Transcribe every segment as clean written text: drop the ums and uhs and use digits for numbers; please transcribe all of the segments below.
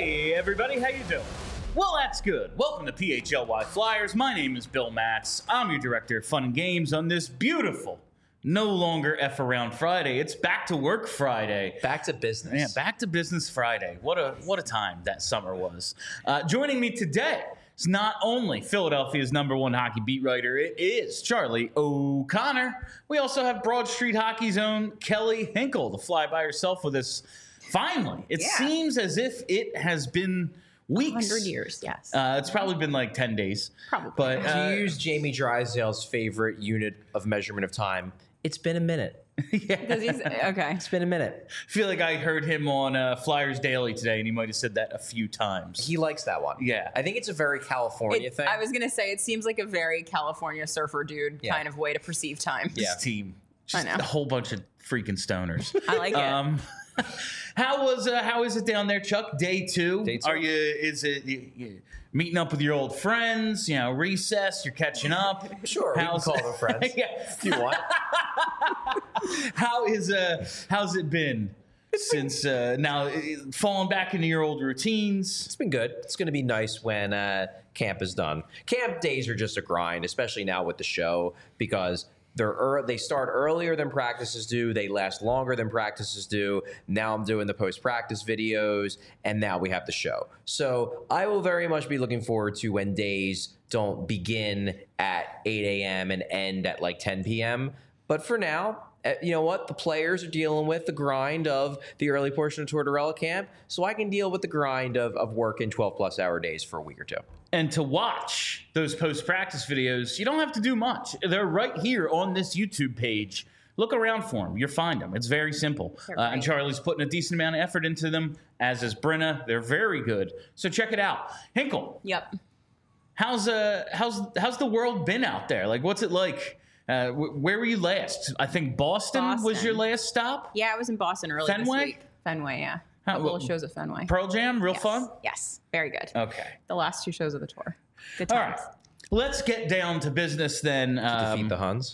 Hey everybody, how you doing? Well, that's good. Welcome to PHLY Flyers. My name is Bill Matz. I'm your director of fun and games on this beautiful, no longer F Around Friday. It's back to work Friday. Back to business. Yeah, back to business Friday. What a time that summer was. Joining me today is not only Philadelphia's #1 hockey beat writer, it is Charlie O'Connor. We also have Broad Street Hockey's own Kelly Hinkle to fly by herself with us. Finally, it seems as if it has been weeks. 100 years, yes. It's probably been like 10 days. Probably. But To use Jamie Drysdale's favorite unit of measurement of time, it's been a minute. Because he's okay. It's been a minute. I feel like I heard him on Flyers Daily today, and he might have said that a few times. He likes that one. Yeah. I think it's a very California thing. I was gonna say it seems like a very California surfer dude Yeah. kind of way to perceive time. This team, just I know. a whole bunch of freaking stoners. I like it. How is it down there, Chuck? Day two. Day two. Are you meeting up with your old friends? You know, recess. You're catching up. Sure, we can call them friends. Yeah. If you want. How's it been since now falling back into your old routines? It's been good. It's going to be nice when camp is done. Camp days are just a grind, especially now with the show, because they start earlier than practices do. They last longer than practices do. Now I'm doing the post-practice videos, and now we have the show. So I will very much be looking forward to when days don't begin at 8 a.m. and end at like 10 p.m. But for now, you know what? The players are dealing with the grind of the early portion of Tortorella camp, so I can deal with the grind of working 12-plus hour days for a week or two. And to watch those post-practice videos, you don't have to do much. They're right here on this YouTube page. Look around for them. You'll find them. It's very simple. And Charlie's putting a decent amount of effort into them, as is Brenna. They're very good. So check it out. Hinkle, Yep. how's the world been out there? Like, what's it like? Where were you last? I think Boston was your last stop. Yeah, I was in Boston earlier Fenway? this week. Fenway, yeah. A couple of shows at Fenway. Pearl Jam, real Yes. fun? Yes, very good. Okay. The last 2 shows of the tour. Good All times. right. Let's get down to business then. Defeat the Huns.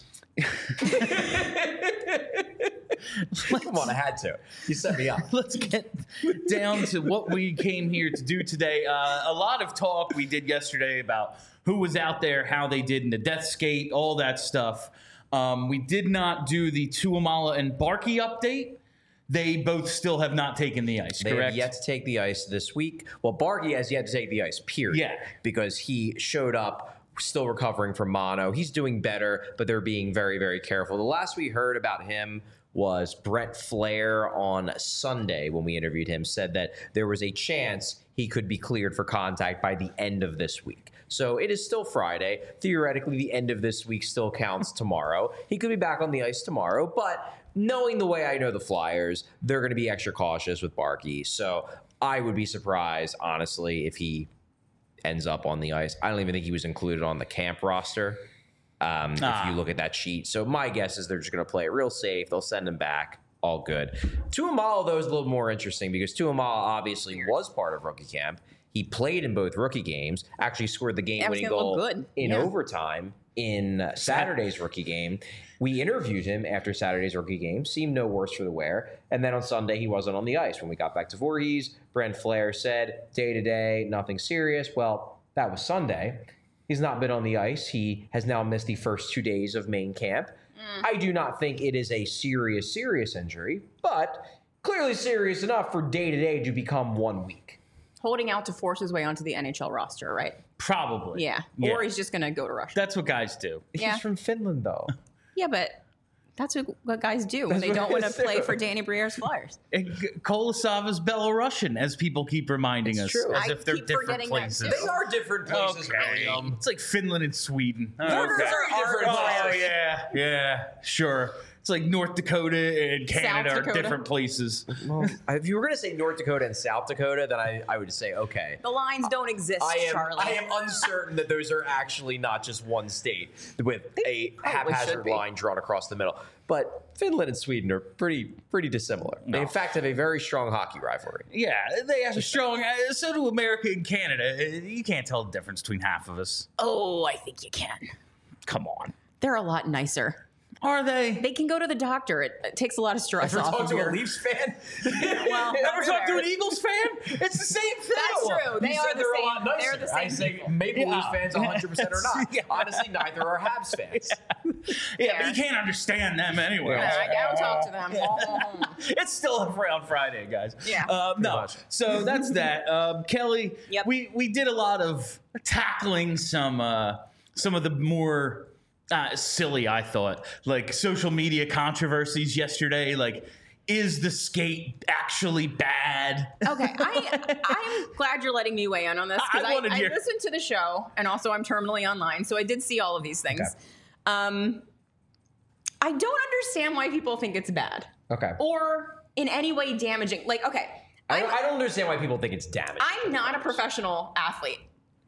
Come on, I had to. You set me up. Let's get down to what we came here to do today. A lot of talk we did yesterday about who was out there, how they did in the death skate, all that stuff. We did not do the Tuamala and Barkey update. They both still have not taken the ice, They correct? have yet to take the ice this week. Well, Barkey has yet to take the ice, period. Yeah. Because he showed up still recovering from mono. He's doing better, but they're being very, very careful. The last we heard about him was Brent Flair on Sunday when we interviewed him, said that there was a chance he could be cleared for contact by the end of this week. So it is still Friday. Theoretically, the end of this week still counts tomorrow. He could be back on the ice tomorrow, but knowing the way I know the Flyers, they're going to be extra cautious with Barkey. So I would be surprised, honestly, if he ends up on the ice. I don't even think he was included on the camp roster. If you look at that sheet. So my guess is they're just going to play it real safe. They'll send him back. All good. Tuamala, though, is a little more interesting because Tuamala obviously was part of rookie camp. He played in both rookie games, actually scored the game-winning goal in overtime in Saturday's rookie game. We interviewed him after Saturday's rookie game, seemed no worse for the wear. And then on Sunday, he wasn't on the ice. When we got back to Voorhees, Brent Flair said, day-to-day, nothing serious. Well, that was Sunday. He's not been on the ice. He has now missed the first 2 days of main camp. I do not think it is a serious injury, but clearly serious enough for day-to-day to become 1 week. Holding out to force his way onto the NHL roster, right? Probably. Yeah. Or he's just going to go to Russia. That's what guys do. Yeah. He's from Finland, though. Yeah, but that's what guys do when they don't want to play for Danny Briere's Flyers. Kolosava's Belarusian, as people keep reminding us. true. As I if they're keep different forgetting that, places. too. They are different places, Okay. William. It's like Finland and Sweden. Borders are different Oh, places. yeah, sure. It's like North Dakota and Canada South are Dakota. different places. Well, if you were going to say North Dakota and South Dakota, then I would say, okay. The lines don't exist, Charlie. I am uncertain that those are actually not just one state with a should haphazard be. line drawn across the middle. But Finland and Sweden are pretty dissimilar. They, in fact, have a very strong hockey rivalry. Yeah, they have a strong. So do America and Canada. You can't tell the difference between half of us. Oh, I think you can. Come on. They're a lot nicer. Are they? They can go to the doctor. It takes a lot of stress Ever off talk of to your... a Leafs fan? Well, Ever talk to an Eagles fan? It's the same thing. That's true. They You are said the they're same. a lot nicer. They're the same I say people. maybe Yeah. Leafs fans 100% or not. Yeah. Honestly, neither are Habs fans. Yeah, but you can't understand them anyway. I don't talk to them. It's still around Friday, guys. Yeah. No. much. So that's that. Kelly, Yep. we did a lot of tackling some of the more silly, I thought, like social media controversies yesterday. Like, is the skate actually bad? Okay, I'm glad you're letting me weigh in on this because I wanted I your- listened to the show and also I'm terminally online, so I did see all of these things. Okay. I don't understand why people think it's bad Okay. or in any way damaging. Like, okay, I don't understand why people think it's damaging. I'm not a professional athlete.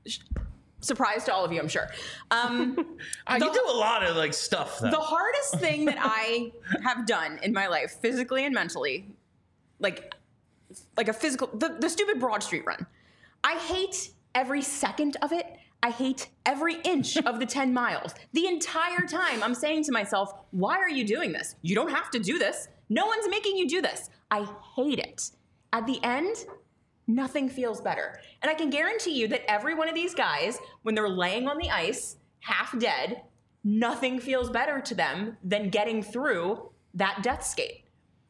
Surprise to all of you, I'm sure. You do a lot of like stuff though. The hardest thing that I have done in my life, physically and mentally, like a physical, the stupid Broad Street run. I hate every second of it. I hate every inch of the 10 miles. The entire time I'm saying to myself, why are you doing this? You don't have to do this. No one's making you do this. I hate it. At the end, nothing feels better. And I can guarantee you that every one of these guys, when they're laying on the ice, half dead, nothing feels better to them than getting through that death skate.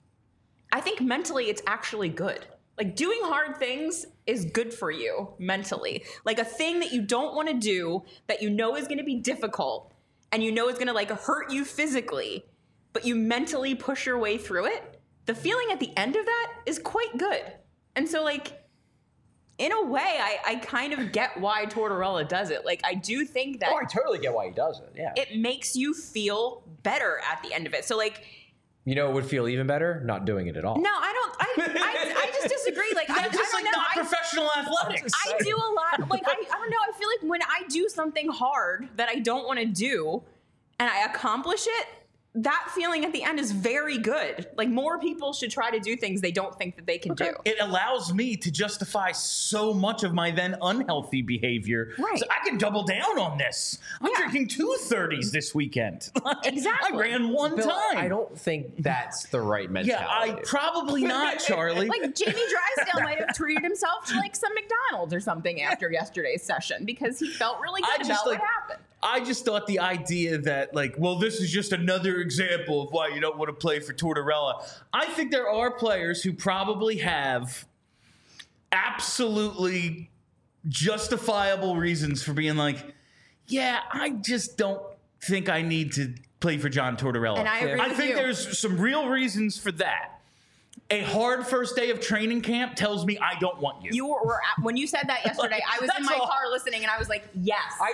I think mentally it's actually good. Like, doing hard things is good for you mentally. Like, a thing that you don't want to do that you know is going to be difficult and you know is going to like hurt you physically, but you mentally push your way through it. The feeling at the end of that is quite good. And so, like, in a way, I kind of get why Tortorella does it. Like, I do think that I totally get why he does it. Yeah. it makes you feel better at the end of it. So, like, You know, it would feel even better not doing it at all. no, I don't. I just disagree. Like, I That's just don't like know. not professional athletics. I do a lot. Like, I don't know. I feel like when I do something hard that I don't want to do and I accomplish it, that feeling at the end is very good. Like, more people should try to do things they don't think that they can do. It allows me to justify so much of my then unhealthy behavior. Right. So I can double down on this. I'm Yeah. drinking 2 30s this weekend. Exactly. I ran one Bill, time. I don't think that's the right Yeah, mentality. probably not, Charlie. Like, Jamie Drysdale might have treated himself to like some McDonald's or something after yesterday's session because he felt really I good just, about like, what happened. I just thought the idea that, like, well, this is just another example of why you don't want to play for Tortorella. I think there are players who probably have absolutely justifiable reasons for being like, yeah, I just don't think I need to play for John Tortorella. And I agree I with think you. there's some real reasons for that. A hard first day of training camp tells me I don't want you. You were at, when you said that yesterday, I was in That's my all. car listening and I was like, yes. I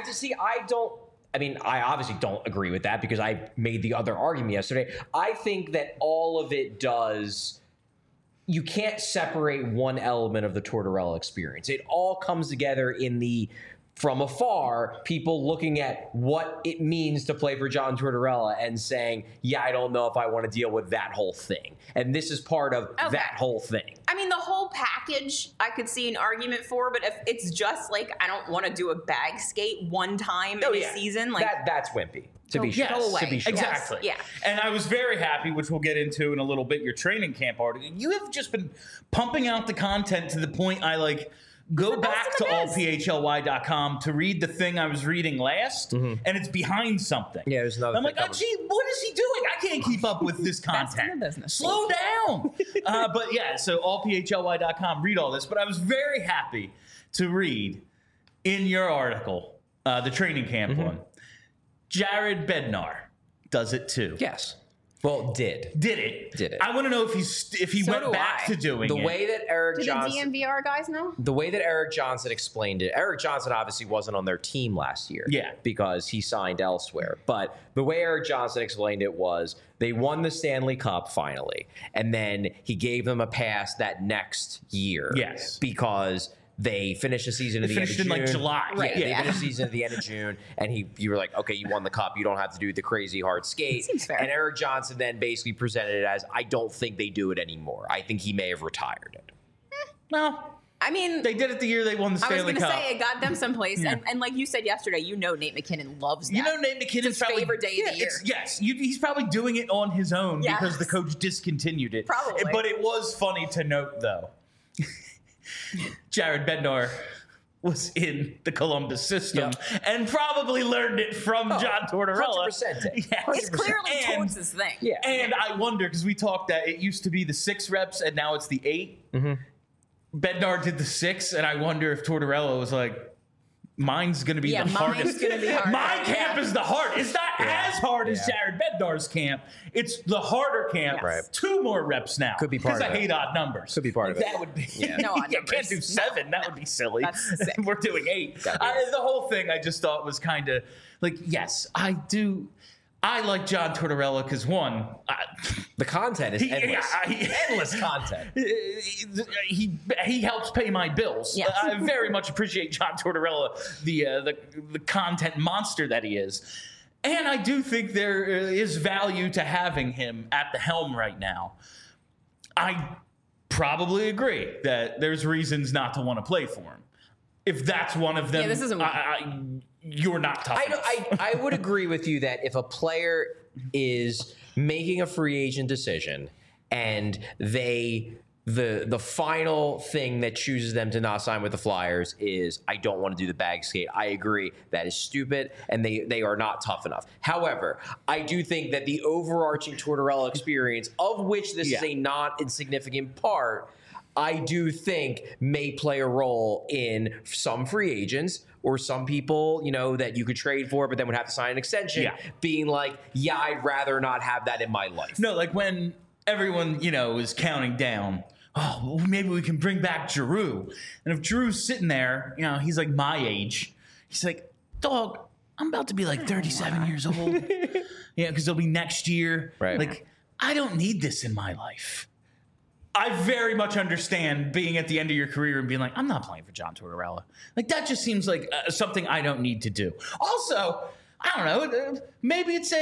obviously don't agree with that because I made the other argument yesterday. I think that all of it does, you can't separate one element of the Tortorella experience. It all comes together in the, from afar, people looking at what it means to play for John Tortorella and saying, yeah, I don't know if I want to deal with that whole thing. And this is part of that whole thing. I mean, the whole package I could see an argument for, but if it's just like, I don't want to do a bag skate one time in a season, like that's wimpy. To be sure. go away. To be sure. Exactly. Yeah. And I was very happy, which we'll get into in a little bit, your training camp article. You have just been pumping out the content to the point I like go back to allphly.com to read the thing I was reading last, and it's behind something. Yeah, there's another I'm thing like, oh, coming. gee, what is he doing? I can't keep up with this Best in content. the business. Slow down. But yeah, so allphly.com, read all this. But I was very happy to read in your article, the training camp one, Jared Bednar does it too. Yes. Well, did. Did it? Did it. I want to know if he So went do back I. to doing The it. way that Eric do Johnson... the DMVR guys know? The way that Eric Johnson explained it, Eric Johnson obviously wasn't on their team last year. Yeah. Because he signed elsewhere. But the way Eric Johnson explained it was they won the Stanley Cup finally. And then he gave them a pass that next year. Yes. Because they finished the season at the end of finished in, June. like, July. Yeah, Right. they Yeah. finished the season at the end of June. And you were like, okay, you won the cup. You don't have to do the crazy hard skate. Seems fair. And Eric Johnson then basically presented it as, I don't think they do it anymore. I think he may have retired it. Well, I mean, They did it the year they won the I was Stanley going to Cup. say it got them someplace, Yeah. and like you said yesterday, Nate McKinnon loves that. Nate McKinnon's his probably favorite day of the year. He's probably doing it on his own Yes. because the coach discontinued it. Probably. But it was funny to note, though. Jared Bednar was in the Columbus system and probably learned it from John Tortorella. 100%. Yes. It's clearly And- Torts' thing. Yeah. And I wonder, because we talked that it used to be the 6 reps and now it's the 8. Bednar did the 6, and I wonder if Tortorella was like, mine's going to be the mine's hardest. gonna be harder. My camp is the hard. It's not as hard as Jared Bednar's camp. It's the harder camp. Yes. Right. 2 more reps now. Could be part Because of I it. hate odd numbers. Could be part of it. That would be. No odd You can't numbers. do 7. That would be silly. That's sick. We're doing 8. The whole thing I just thought was kind of like, yes, I do. I like John Tortorella because, one, The content is endless. Endless content. he helps pay my bills. Yes. I very much appreciate John Tortorella, the content monster that he is. And I do think there is value to having him at the helm right now. I probably agree that there's reasons not to want to play for him. If that's one of them, Yeah, this isn't one. you're not tough enough. I would agree with you that if a player is making a free agent decision and the final thing that chooses them to not sign with the Flyers is, I don't want to do the bag skate. I agree. That is stupid, and they are not tough enough. However, I do think that the overarching Tortorella experience, of which this is a not insignificant part, I do think may play a role in some free agents or some people, that you could trade for, but then would have to sign an extension, being like, I'd rather not have that in my life. No, like when everyone, is counting down, well, maybe we can bring back Giroux. And if Giroux's sitting there, he's like my age. He's like, dog, I'm about to be like 37 years old. Because it'll be next year. Right. Like, I don't need this in my life. I very much understand being at the end of your career and being like, I'm not playing for John Tortorella. Like, that just seems like something I don't need to do. Also, I don't know, maybe it's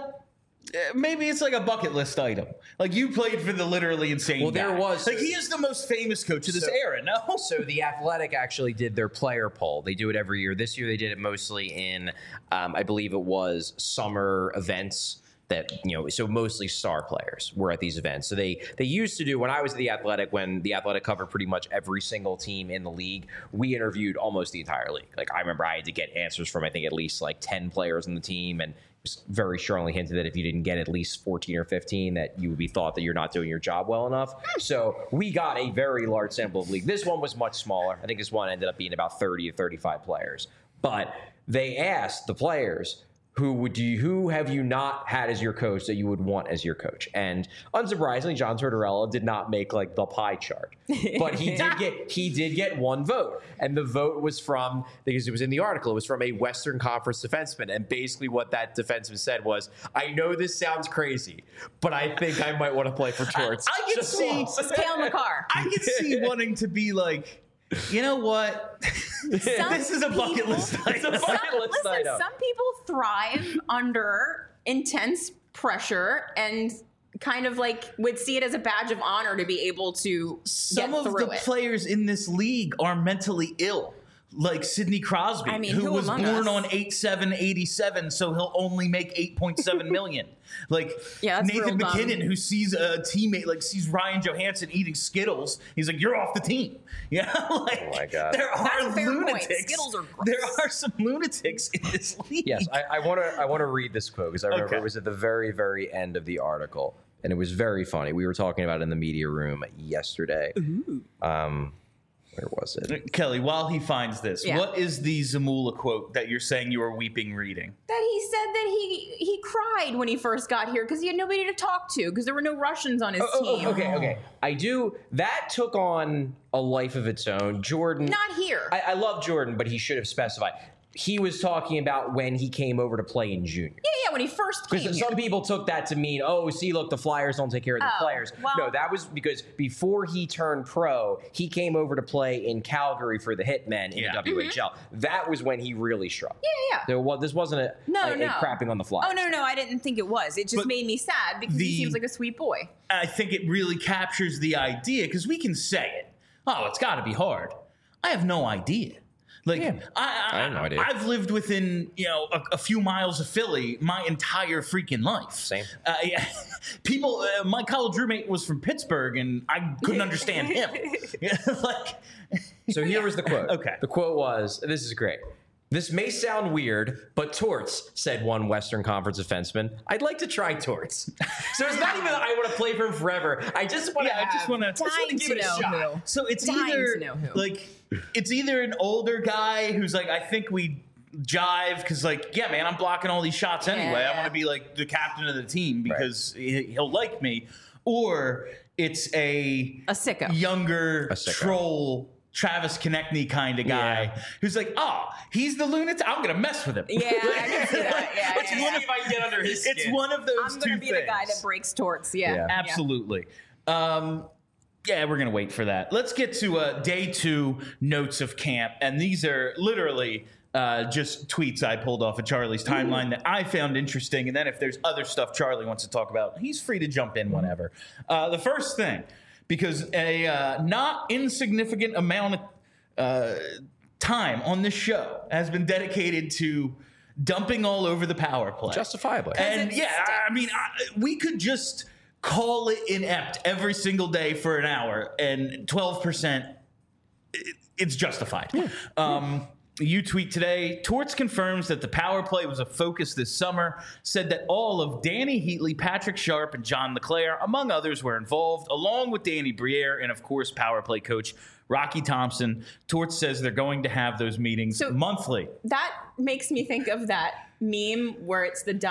like a bucket list item. Like, you played for the literally insane Well, there guy. was- Like, he is the most famous coach of this era, no? So the Athletic actually did their player poll. They do it every year. This year they did it mostly in, I believe it was summer events. That, so mostly star players were at these events. So they used to do, when I was at the Athletic, when the Athletic covered pretty much every single team in the league, we interviewed almost the entire league. Like, I remember I had to get answers from, I think, at least like 10 players on the team, and it was very strongly hinted that if you didn't get at least 14 or 15, that you would be thought that you're not doing your job well enough. So we got a very large sample of league. This one was much smaller. I think this one ended up being about 30 to 35 players. But they asked the players, who have you not had as your coach that you would want as your coach? And unsurprisingly, John Tortorella did not make like the pie chart, but he did get one vote, and the vote was from, because it was in the article, it was from a Western Conference defenseman, and basically what that defenseman said was, I know this sounds crazy, but I think I might want to play for Torts. I can see It's Cale Makar. I can see wanting to be like, you know what? This is a bucket list item. Some people thrive under intense pressure and kind of like would see it as a badge of honor to be able to Some get of through the it. players in this league are mentally ill. Like Sidney Crosby, I mean, who who was among born us? on 8/7/87, so he'll only make $8.7 million. Like Yeah, that's Nathan real dumb. McKinnon, who sees a teammate, like sees Ryan Johansson eating Skittles, he's like, "You're off the team." Yeah, like, Oh my God. there That's are a fair point. lunatics. Skittles are gross. There are some lunatics in this league. Yes, I want to read this quote because I remember Okay. it was at the very, very end of the article, and it was very funny. We were talking about it in the media room yesterday. Where was it? Kelly, while he finds this, Yeah. what is the Zamula quote that you're saying you were weeping reading? That he said that he cried when he first got here because he had nobody to talk to because there were no Russians on his team. Okay. I do. That took on a life of its own. Jordan. Not here. I love Jordan, but he should have specified. He was talking about when he came over to play in junior. yeah, when he first came Because here. some people took that to mean, oh, see, look, the Flyers don't take care of the Oh, players. well- No, that was because before he turned pro, he came over to play in Calgary for the Hitmen in Yeah. the WHL. That was when he really struck. Yeah. So this wasn't a crapping on the Flyers. Oh, no, I didn't think it was. It just But made me sad because he seems like a sweet boy. I think it really captures the idea because we can say it. Oh, it's got to be hard. I have no idea. Like, Yeah. I have no idea. I've lived within, a few miles of Philly my entire freaking life. Same. Yeah. People, my college roommate was from Pittsburgh, and I couldn't understand him. So here was the quote. Okay. The quote was, this is great. This may sound weird, but torts, said one Western Conference defenseman. I'd like to try torts. So it's not even that I want to play for him forever. I just want to I just want to Dying give to it a know shot. who. So it's Dying either to know who. it's either an older guy who's like, I think we jive because yeah, man, I'm blocking all these shots anyway. I Yeah. want to be like the captain of the team because he'll like me, or it's a sicko. younger A sicko. troll. Travis Konechny kind of guy Yeah. who's like, oh, he's the lunatic. I'm gonna mess with him. Yeah, I can see that. Yeah, It's yeah, one yeah. of- if I can get under his skin. It's one of those I'm two gonna be the guy things. that breaks torts. Yeah, Yeah. Absolutely. Yeah, we're going to wait for that. Let's get to day 2 notes of camp. And these are literally just tweets I pulled off of Charlie's timeline that I found interesting. And then if there's other stuff Charlie wants to talk about, he's free to jump in whenever. The first thing, because a not insignificant amount of time on this show has been dedicated to dumping all over the power play. Justifiably. And it yeah, I mean, we could just call it inept every single day for an hour, and 12%, it's justified. You tweet today, Torts confirms that the power play was a focus this summer, said that all of Danny Heatley, Patrick Sharp, and John LeClaire, among others, were involved, along with Danny Briere and, of course, power play coach Rocky Thompson. Torts says they're going to have those meetings So- monthly. That makes me think of that meme where it's the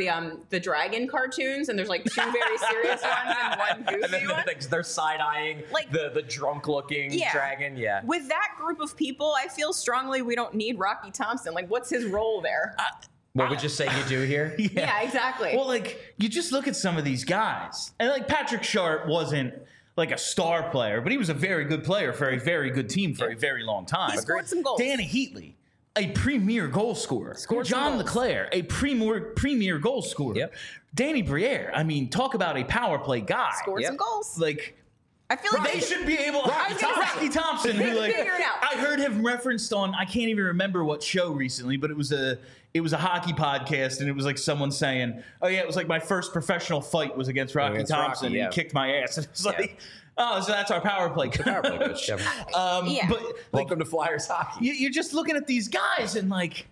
dragon cartoons, and there's like 2 very serious ones and one And goofy then one. they're side-eyeing Like- the drunk-looking Yeah. dragon. Yeah. With that group of people, I feel strongly we don't need Rocky Thompson. Like, what's his role there? What would you say you do here? yeah, exactly. Well, like, you just look at some of these guys. And, like, Patrick Sharp wasn't, like, a star player, but he was a very good player for a very good team for a very long time. He scored some goals. Danny Heatley, a premier goal scorer. Scored some John goals. LeClaire, a premier goal scorer. Yep. Danny Briere, I mean, talk about a power play guy. Scored Yep. some goals. Like, I feel like they should be able. Rocky Thompson, who They like figure it out. I heard him referenced on. I can't even remember what show recently, but it was a hockey podcast, and it was like someone saying, "Oh yeah, it was like my first professional fight was against Rocky Against Thompson, Rocky, and he yeah. kicked my ass." And it was like, "Oh, so that's our power play." Power play coach. Yeah. Yeah. But like, Welcome to Flyers hockey. you're just looking at these guys, and like,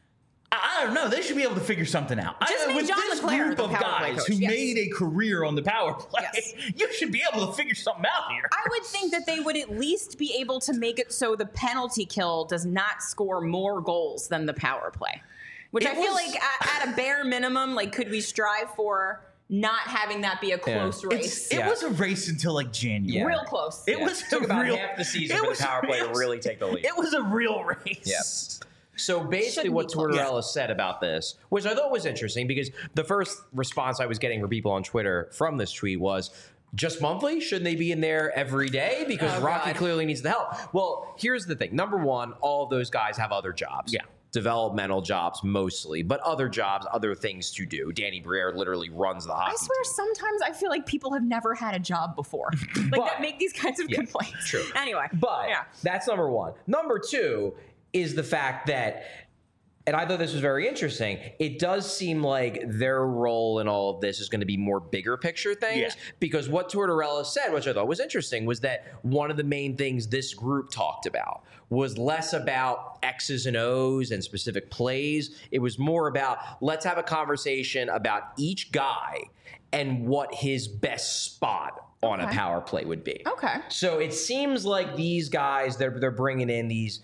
I don't know. They should be able to figure something out. Just make With John this LeClaire group the of power play guys coach, who yes. made a career on the power play, Yes. you should be able to figure something out here. I would think that they would at least be able to make it so the penalty kill does not score more goals than the power play. Which It I feel was- like at a bare minimum, like, could we strive for not having that be a close race? It was a race until like January. Yeah. Real close. It was It took a about real, half the season it for was- the power play it to was- really take the lead. It was a real race. So basically Shouldn't what be close. Tortorella said about this, which I thought was interesting because the first response I was getting from people on Twitter from this tweet was, just monthly? Shouldn't they be in there every day? Because Oh, Rocky God. clearly needs the help. Well, here's the thing. Number one, all of those guys have other jobs. Yeah. Developmental jobs mostly, but other jobs, other things to do. Danny Briere literally runs the hockey I swear, team. sometimes I feel like people have never had a job before, like But- that make these kinds of Yeah, complaints. true. Anyway, But yeah, that's number one. Number two is the fact that, and I thought this was very interesting, it does seem like their role in all of this is going to be more bigger picture things. Yeah. Because what Tortorella said, which I thought was interesting, was that one of the main things this group talked about was less about X's and O's and specific plays. It was more about, let's have a conversation about each guy and what his best spot on a Okay. power play would be. okay. So it seems like these guys, they're bringing in these,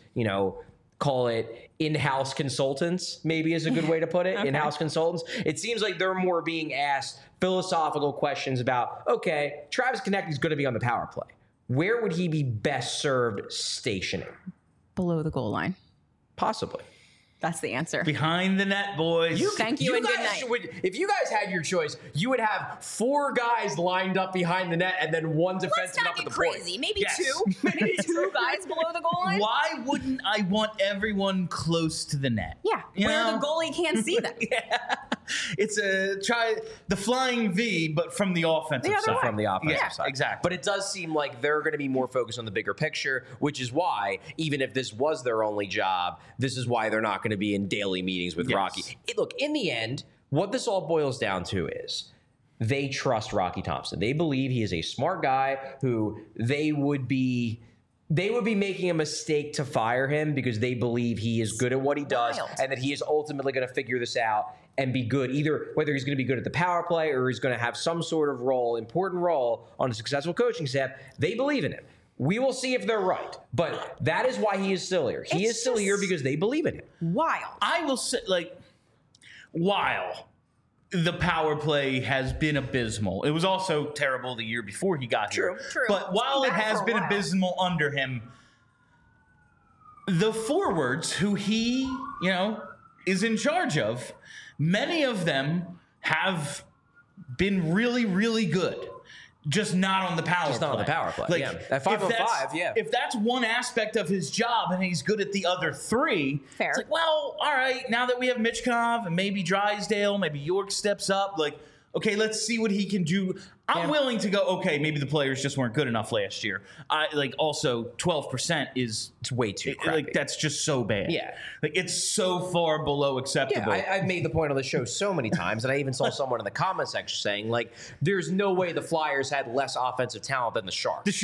call it in-house consultants, maybe is a good way to put it, in-house consultants. It seems like they're more being asked philosophical questions about, okay, Travis Konechny's going to be on the power play. Where would he be best served stationing? Below the goal line. Possibly. That's the answer. Behind the net, boys. Thank you and good guys night. would, if you guys had your choice, you would have 4 guys lined up behind the net and then one Let's defenseman not up at get the crazy. point. Maybe Yes. 2. Maybe 2 guys below the goal line. Why wouldn't I want everyone close to the net? Yeah, You where know? the goalie can't see them. It's a try the flying V, but from the offensive other side. way. From the offensive Yeah, side. exactly. But it does seem like they're going to be more focused on the bigger picture, which is why, even if this was their only job, this is why they're not going to be in daily meetings with Yes. Rocky. Look, in the end, what this all boils down to is they trust Rocky Thompson. They believe he is a smart guy who they would be making a mistake to fire him because they believe he is good at what he does Wild. and that he is ultimately going to figure this out and be good, either whether he's going to be good at the power play or he's going to have some sort of important role on a successful coaching staff. They believe in him. We will see if they're right, but that is why he is still here. He It's is still here just- because they believe in him. Wild. I will say, while the power play has been abysmal, it was also terrible the year before he got here. True. But while It's it been bad has for a been while. abysmal under him, the forwards who he, is in charge of, many of them have been really, really good. Just not on the power play. Just not on the power play, yeah. At 5 on 5, yeah. If that's one aspect of his job and he's good at the other three, Fair. it's like, well, all right, now that we have Michkov and maybe Drysdale, maybe York steps up, okay, let's see what he can do. I'm willing to go, okay, maybe the players just weren't good enough last year. Also 12% is It's way too crappy. that's just so bad. Yeah. It's so far below acceptable. Yeah, I've made the point on the show so many times, and I even saw someone in the comment section saying, there's no way the Flyers had less offensive talent than the Sharks.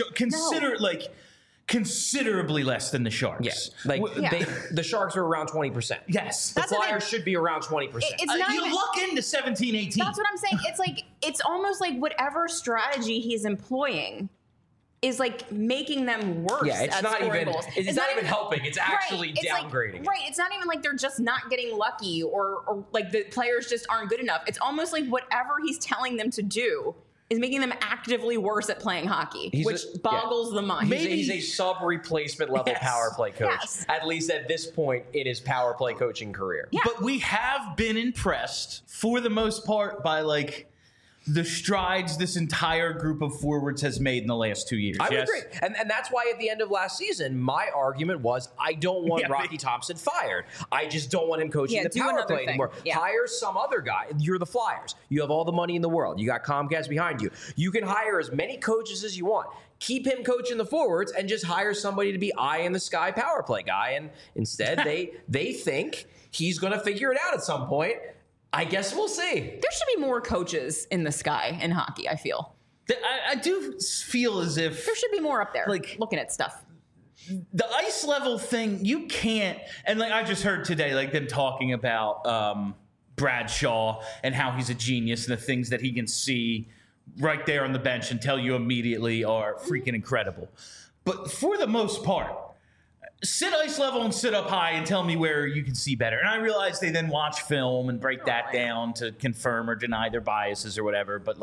Considerably less than the Sharks. Yeah, the Sharks are around 20%. Yes. The That's the Flyers thing. should be around 20%. It's not you even- luck into 17, 18. That's what I'm saying. It's almost like whatever strategy he's employing is making them worse. Yeah, it's at not scoring even- goals. it's not even helping. It's actually It's downgrading. right. It's not even like they're just not getting lucky or the players just aren't good enough. It's almost like whatever he's telling them to do is making them actively worse at playing hockey, which boggles the mind. He's a sub-replacement level Yes. power play coach, Yes. at least at this point in his power play coaching career. Yeah. But we have been impressed for the most part by the strides this entire group of forwards has made in the last 2 years. I would yes? agree. And that's why at the end of last season, my argument was I don't want Yeah, Rocky Thompson fired. I just don't want him coaching the do power another play thing. anymore. Yeah. Hire some other guy. You're the Flyers. You have all the money in the world. You got Comcast behind you. You can hire as many coaches as you want. Keep him coaching the forwards and just hire somebody to be eye in the sky power play guy. And instead, they think he's going to figure it out at some point. I guess we'll see. There should be more coaches in the sky in hockey, I feel. I do feel as if There should be more up there looking at stuff. the ice level thing, you can't. And I just heard today, them talking about Bradshaw and how he's a genius and the things that he can see right there on the bench and tell you immediately are freaking incredible. But for the most part, sit ice level and sit up high and tell me where you can see better. And I realize they then watch film and break that down to confirm or deny their biases or whatever. But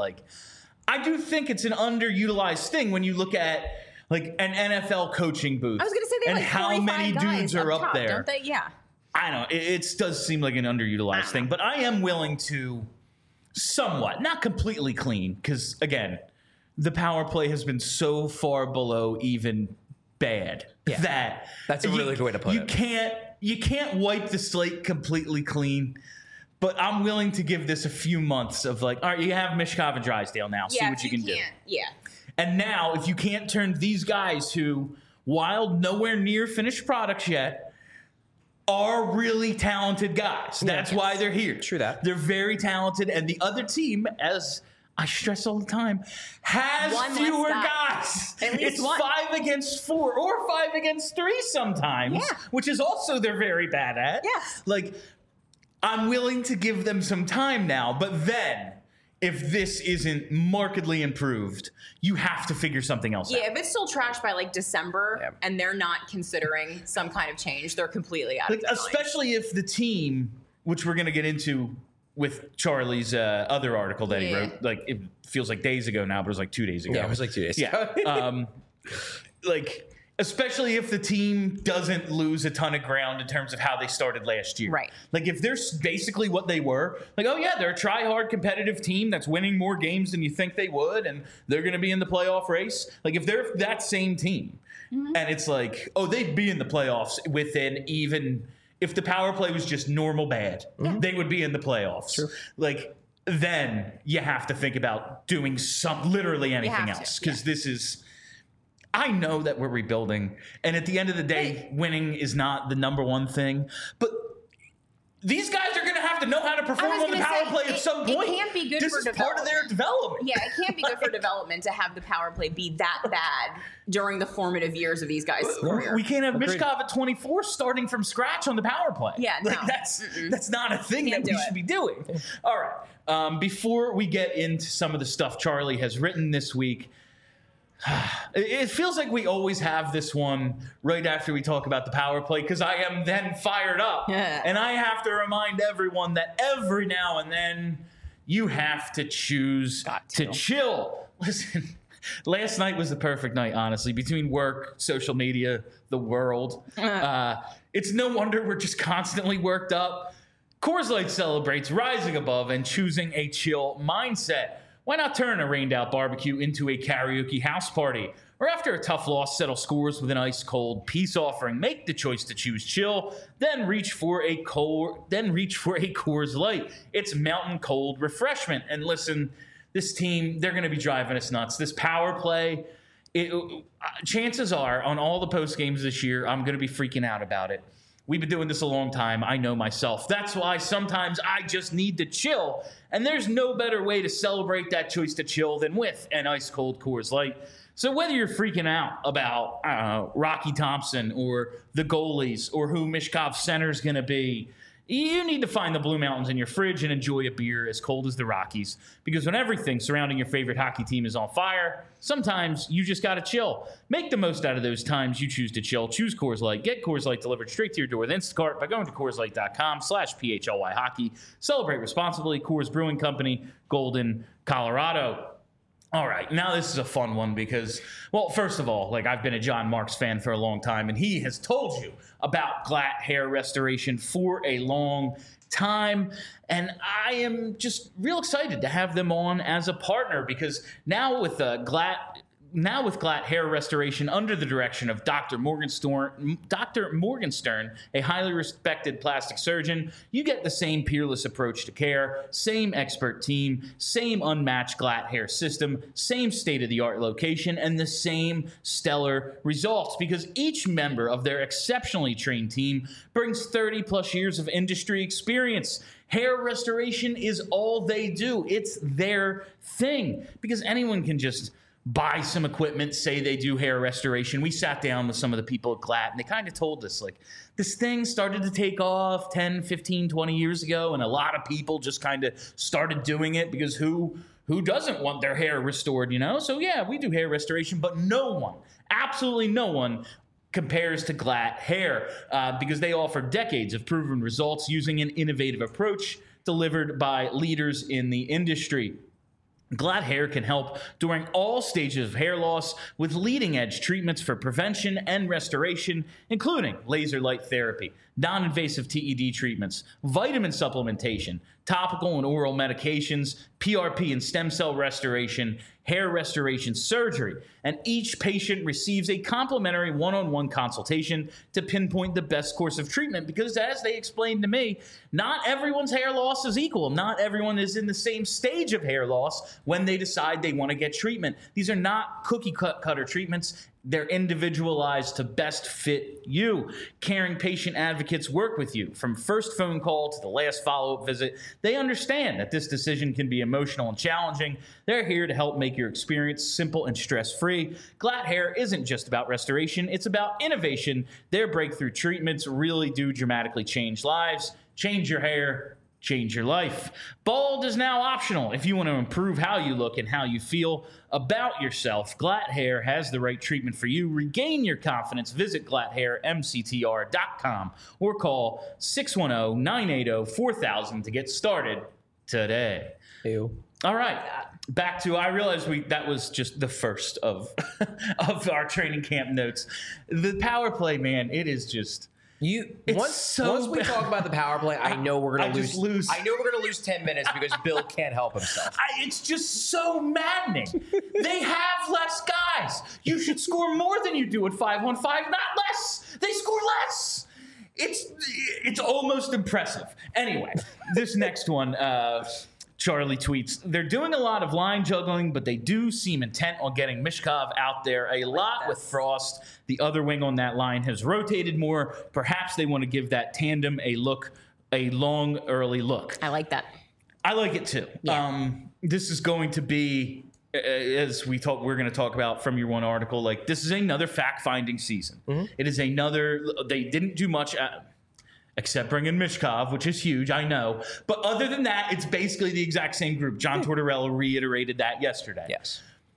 I do think it's an underutilized thing when you look at an NFL coaching booth. I was going to say they and have how 45 many guys dudes are up top, there. don't they? Yeah. I don't know. It does seem like an underutilized thing, but I am willing to somewhat, not completely clean, because again, the power play has been so far below even bad that That's a really good way to put it. You can't wipe the slate completely clean. But I'm willing to give this a few months of all right, you have Michkov and Drysdale now. See what you can do. Yeah. And now, if you can't turn these guys who, while nowhere near finished products yet, are really talented guys. That's why they're here. True that. They're very talented. And the other team, as I stress all the time, has One less fewer guy. guys. At least it's one. 5 against 4 or 5 against 3 sometimes, Yeah. which is also they're very bad at. Yes. I'm willing to give them some time now, but then if this isn't markedly improved, you have to figure something else out. Yeah, if it's still trash by December and they're not considering some kind of change, they're completely out of their mind. Especially if the team, which we're going to get into with Charlie's other article that he wrote, it feels like days ago now, but it was 2 days ago. Yeah, it was 2 days Yeah. ago. Especially if the team doesn't lose a ton of ground in terms of how they started last year. Right. If they're basically what they were, oh yeah, they're a try-hard competitive team that's winning more games than you think they would, and they're going to be in the playoff race. If they're that same team, and it's they'd be in the playoffs within even if the power play was just normal bad, they would be in the playoffs. True. Like, then you have to think about doing literally anything have to, else, because this is. I know that we're rebuilding, and at the end of the day, winning is not the number one thing, but these guys are going to have to know how to perform on the power play at some point. It can't be good this for is part of their development. Yeah, it can't be good for development to have the power play be that bad during the formative years of these guys' career. We can't have Agreed. Mishkov at 24 starting from scratch on the power play. Yeah, like, no. That's not a thing Can't that we do should it. be doing. All right. Before we get into some of the stuff Charlie has written this week, it feels like we always have this one right after we talk about the power play, because I am then fired up. Yeah. And I have to remind everyone that every now and then you have to choose to chill. Listen, last night was the perfect night, honestly, between work, social media, the world. It's no wonder we're just constantly worked up. Coors Light celebrates rising above and choosing a chill mindset. Why not turn a rained-out barbecue into a karaoke house party? Or after a tough loss, settle scores with an ice-cold peace offering. Make the choice to choose chill, then reach for a Coors Light. It's mountain cold refreshment. And listen, this team, they're going to be driving us nuts. This power play, chances are, on all the post games this year, I'm going to be freaking out about it. We've been doing this a long time. I know myself. That's why sometimes I just need to chill. And there's no better way to celebrate that choice to chill than with an ice-cold Coors Light. So whether you're freaking out about, I don't know, Rocky Thompson or the goalies or who Mishkov's center is going to be, you need to find the Blue Mountains in your fridge and enjoy a beer as cold as the Rockies. Because when everything surrounding your favorite hockey team is on fire, sometimes you just got to chill. Make the most out of those times you choose to chill. Choose Coors Light. Get Coors Light delivered straight to your door with Instacart by going to CoorsLight.com/PHLY Hockey. Celebrate responsibly. Coors Brewing Company, Golden, Colorado. All right, now this is a fun one because, well, first of all, like, I've been a John Marks fan for a long time, and he has told you about Glatt hair restoration for a long time, and I am just real excited to have them on as a partner because now with Glatt hair restoration under the direction of Dr. Morgenstern, a highly respected plastic surgeon, you get the same peerless approach to care, same expert team, same unmatched Glatt hair system, same state-of-the-art location, and the same stellar results because each member of their exceptionally trained team brings 30-plus years of industry experience. Hair restoration is all they do. It's their thing because anyone can just buy some equipment, say they do hair restoration. We sat down with some of the people at Glatt, and they kind of told us, like, this thing started to take off 10, 15, 20 years ago, and a lot of people just kind of started doing it because who doesn't want their hair restored, you know? So, yeah, we do hair restoration, but no one, absolutely no one, compares to Glatt hair because they offer decades of proven results using an innovative approach delivered by leaders in the industry. Glatt hair can help during all stages of hair loss with leading-edge treatments for prevention and restoration, including laser light therapy, non-invasive TED treatments, vitamin supplementation, topical and oral medications, PRP and stem cell restoration, hair restoration surgery, and each patient receives a complimentary one-on-one consultation to pinpoint the best course of treatment because, as they explained to me, not everyone's hair loss is equal. Not everyone is in the same stage of hair loss when they decide they want to get treatment. These are not cookie-cutter treatments. They're individualized to best fit you. Caring patient advocates work with you from first phone call to the last follow-up visit. They understand that this decision can be emotional and challenging. They're here to help make your experience simple and stress-free. Glatt hair isn't just about restoration. It's about innovation. Their breakthrough treatments really do dramatically change lives. Change your hair. Change your life. Bald is now optional if you want to improve how you look and how you feel about yourself. Glatt Hair has the right treatment for you. Regain your confidence. Visit GlattHairMCTR.com or call 610-980-4000 to get started today. Ew. All right, back to, I realized that was just the first of of our training camp notes. The power play, man, it is just... Once we talk about the power play, I know we're gonna lose. I know we're gonna lose 10 minutes because Bill can't help himself. It's just so maddening. They have less guys. You should score more than you do at 5-on-5, not less. They score less. it's almost impressive. Anyway, this next one, Charlie tweets, they're doing a lot of line juggling, but they do seem intent on getting Mishkov out there a lot with Frost. The other wing on that line has rotated more. Perhaps they want to give that tandem a long early look. I like that. I like it too. Yeah. This is going to be, as we're going to talk about from your one article, like this is another fact-finding season. It is another. They didn't do much except bring in Mishkov, which is huge, I know. But other than that, it's basically the exact same group. John Tortorella reiterated that yesterday. Yes.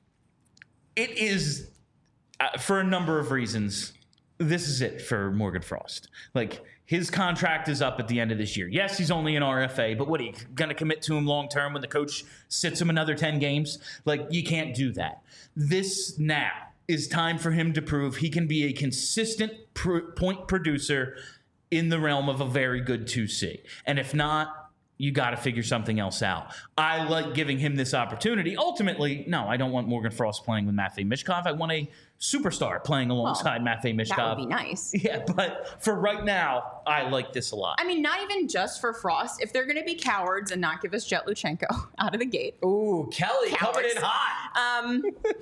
It is, for a number of reasons, this is it for Morgan Frost. Like, his contract is up at the end of this year. Yes, he's only an RFA, but what are you going to commit to him long term when the coach sits him another 10 games? Like, you can't do that. This now is time for him to prove he can be a consistent point producer in the realm of a very good 2C. And if not, you got to figure something else out. I like giving him this opportunity. Ultimately, no, I don't want Morgan Frost playing with Matvei Mishkov. I want a superstar playing alongside Matvei Mishkov. That would be nice. Yeah, but for right now, I like this a lot. I mean, not even just for Frost. If they're going to be cowards and not give us Jet Luchenko out of the gate. Ooh, Kelly Cowards. coming in hot.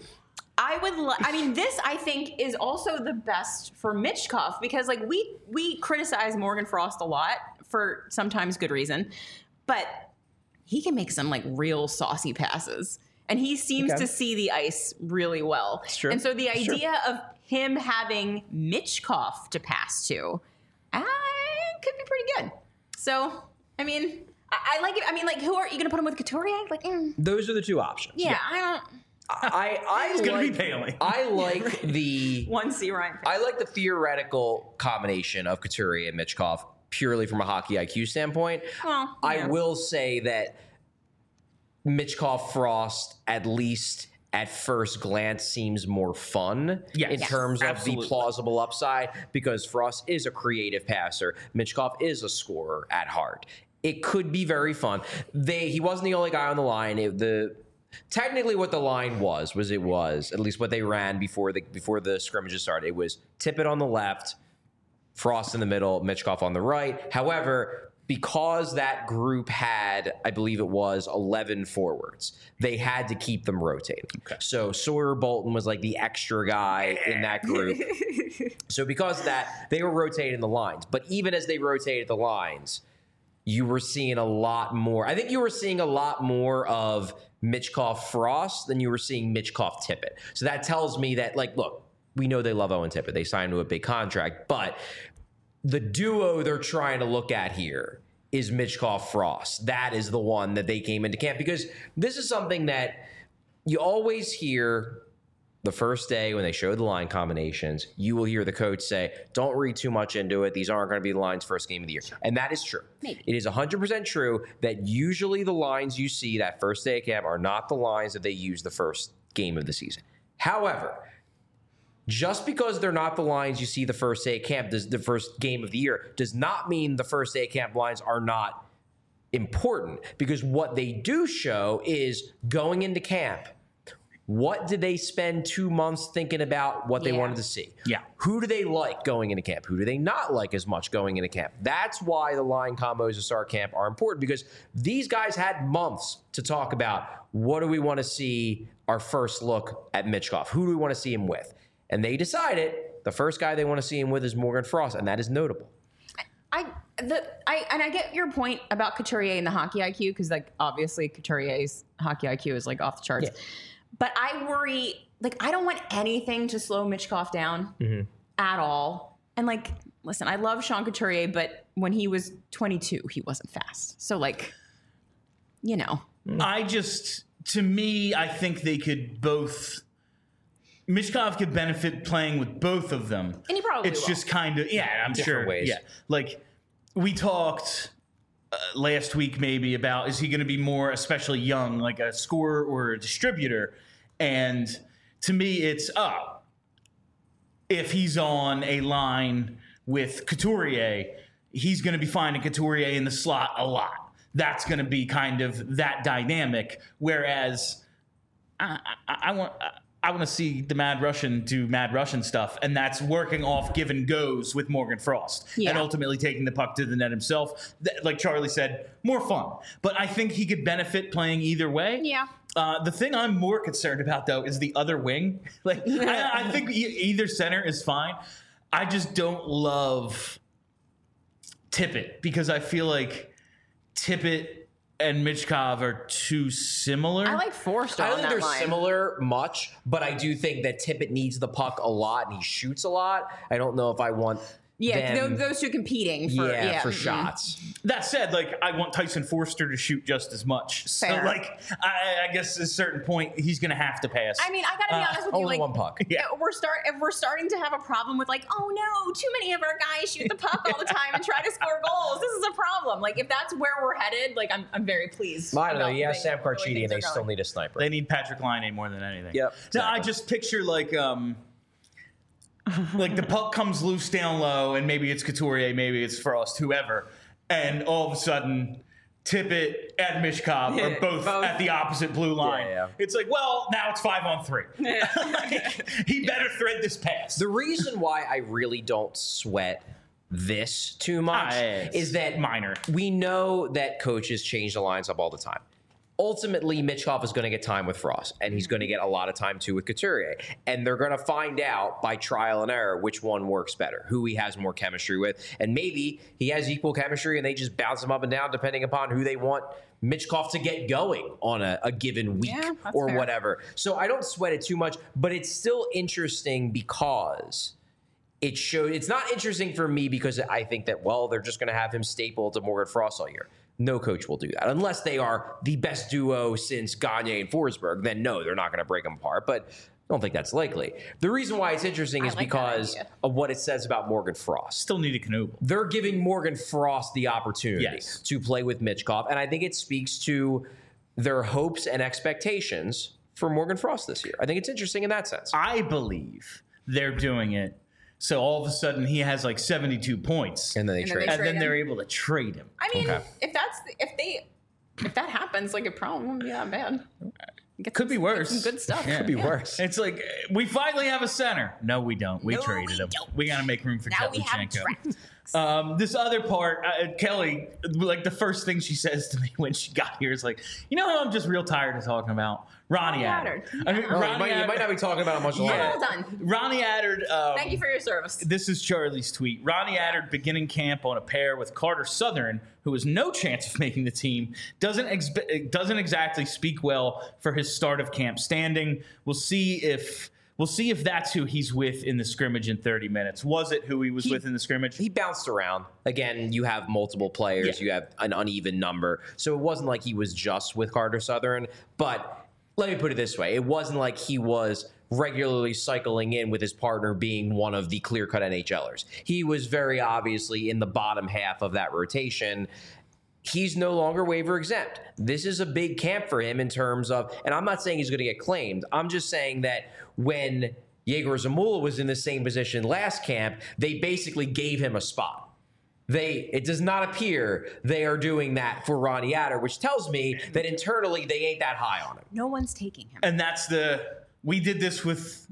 I mean, this I think is also the best for Michkov because like we criticize Morgan Frost a lot for sometimes good reason, but he can make some like real saucy passes. And he seems to see the ice really well. It's true. And so the idea of him having Michkov to pass to could be pretty good. So, I mean, I like it. I mean, like, who are you going to put him with Couturier? Like, Those are the two options. yeah, I don't. It's gonna be Bailey. I like the 1C Ryan. I like the theoretical combination of Couturier and Michkov purely from a hockey IQ standpoint. Well, I yeah. will say that Michkov Frost, at least at first glance, seems more fun in terms of absolutely. the plausible upside because Frost is a creative passer. Michkov is a scorer at heart. It could be very fun. He wasn't the only guy on the line. Technically, what the line was at least what they ran before the scrimmages started. It was Tippett on the left, Frost in the middle, Michkov on the right. However, because that group had, I believe it was 11 forwards, they had to keep them rotating. Okay. So Sawyer Bolton was like the extra guy in that group. So because of that, they were rotating the lines. But even as they rotated the lines, you were seeing a lot more. I think you were seeing a lot more of Michkov Frost than you were seeing Michkov Tippett. So that tells me that, like, look, we know they love Owen Tippett. They signed to a big contract, but the duo they're trying to look at here is Michkov Frost. That is the one that they came into camp because this is something that you always hear the first day when they show the line combinations. You will hear the coach say, don't read too much into it. These aren't going to be the lines first game of the year. And that is true. Maybe. It is 100% true that usually the lines you see that first day of camp are not the lines that they use the first game of the season. However, just because they're not the lines you see the first day of camp, the first game of the year, does not mean the first day of camp lines are not important. Because what they do show is going into camp, what did they spend 2 months thinking about what they wanted to see? Yeah. Who do they like going into camp? Who do they not like as much going into camp? That's why the line combos to start camp are important because these guys had months to talk about what do we want to see our first look at Michkov? Who do we want to see him with? And they decided the first guy they want to see him with is Morgan Frost, and that is notable. I get your point about Couturier and the hockey IQ because like obviously Couturier's hockey IQ is like off the charts. Yeah. But I worry, like, I don't want anything to slow Michkov down at all. And, like, listen, I love Sean Couturier, but when he was 22, he wasn't fast. So, like, you know. To me, I think they could both. Michkov could benefit playing with both of them. And he probably It's will. just kind of, I'm Different sure. ways. Yeah. Like, we talked last week maybe about is he going to be more, especially young, like a scorer or a distributor? And to me, it's if he's on a line with Couturier, he's going to be finding Couturier in the slot a lot. That's going to be kind of that dynamic. Whereas I I want to see the Mad Russian do Mad Russian stuff, and that's working off give and goes with Morgan Frost, and ultimately taking the puck to the net himself. Like Charlie said, more fun. But I think he could benefit playing either way. Yeah. The thing I'm more concerned about, though, is the other wing. Like, I think either center is fine. I just don't love Tippett because I feel like Tippett and Michkov are too similar. I like Forster. I don't on think that they're line. similar much, but I do think that Tippett needs the puck a lot and he shoots a lot. I don't know if I want them, those two competing for shots. That said, like, I want Tyson Forster to shoot just as much. So, Fair. like, I guess at a certain point, he's going to have to pass. I mean, I gotta be honest with you. Only Like, one puck. Yeah. if we're starting to have a problem with like, oh no, too many of our guys shoot the puck all the time and try to score goals. This is a problem. Like, if that's where we're headed, like, I'm very pleased. I don't know. about Yeah, the way Sam Carchidi, and they things are still going. need a sniper. They need Patrick Laine more than anything. Yep, No, I exactly. just picture, like the puck comes loose down low, and maybe it's Couturier, maybe it's Frost, whoever, and all of a sudden, Tippett and Michkov are both at the opposite blue line. Yeah. It's like, well, now it's 5-on-3. Like, he better thread this pass. The reason why I really don't sweat this too much is that minor. We know that coaches change the lines up all the time. Ultimately, Michkov is going to get time with Frost, and he's going to get a lot of time too with Couturier. And they're going to find out by trial and error which one works better, who he has more chemistry with. And maybe he has equal chemistry and they just bounce him up and down depending upon who they want Michkov to get going on a given week or fair. whatever. So I don't sweat it too much, but it's still interesting because it's not interesting for me because I think that, well, they're just going to have him stapled to Morgan Frost all year. No coach will do that unless they are the best duo since Gagne and Forsberg. Then no, they're not going to break them apart. But I don't think that's likely. The reason why it's interesting is like that because idea. of what it says about Morgan Frost. Still need a Knuble. They're giving Morgan Frost the opportunity to play with Michkov, and I think it speaks to their hopes and expectations for Morgan Frost this year. I think it's interesting in that sense. I believe they're doing it so all of a sudden he has like 72 points. And then they And then trade. they And then trade they're him. able to trade him. I mean, Okay. if that happens, like, it probably won't be that bad. Could be worse. Some good stuff. Yeah. Could be worse. It's like, we finally have a center. No, we don't. We No, traded we him. don't. We got to make room for Now we have Chetlichenko. This other part, Kelly, like the first thing she says to me when she got here is like, you know who I'm just real tired of talking about? Ronnie Attard. I mean, Oh, Ronnie you might not be talking about it much longer. Well done. Ronnie Attard. Thank you for your service. This is Charlie's tweet. Ronnie Attard beginning camp on a pair with Carter Southern, who has no chance of making the team, doesn't exactly speak well for his start of camp standing. We'll see if that's who he's with in the scrimmage in 30 minutes. Was it who he was with in the scrimmage? He bounced around. Again, you have multiple players. Yeah. You have an uneven number. So it wasn't like he was just with Carter Southern. But let me put it this way. It wasn't like he was regularly cycling in with his partner being one of the clear-cut NHLers. He was very obviously in the bottom half of that rotation. He's no longer waiver exempt. This is a big camp for him in terms of, and I'm not saying he's going to get claimed. I'm just saying that when Yegor Zamula was in the same position last camp, they basically gave him a spot. It does not appear they are doing that for Ronnie Attard, which tells me that internally they ain't that high on him. No one's taking him. And that's we did this with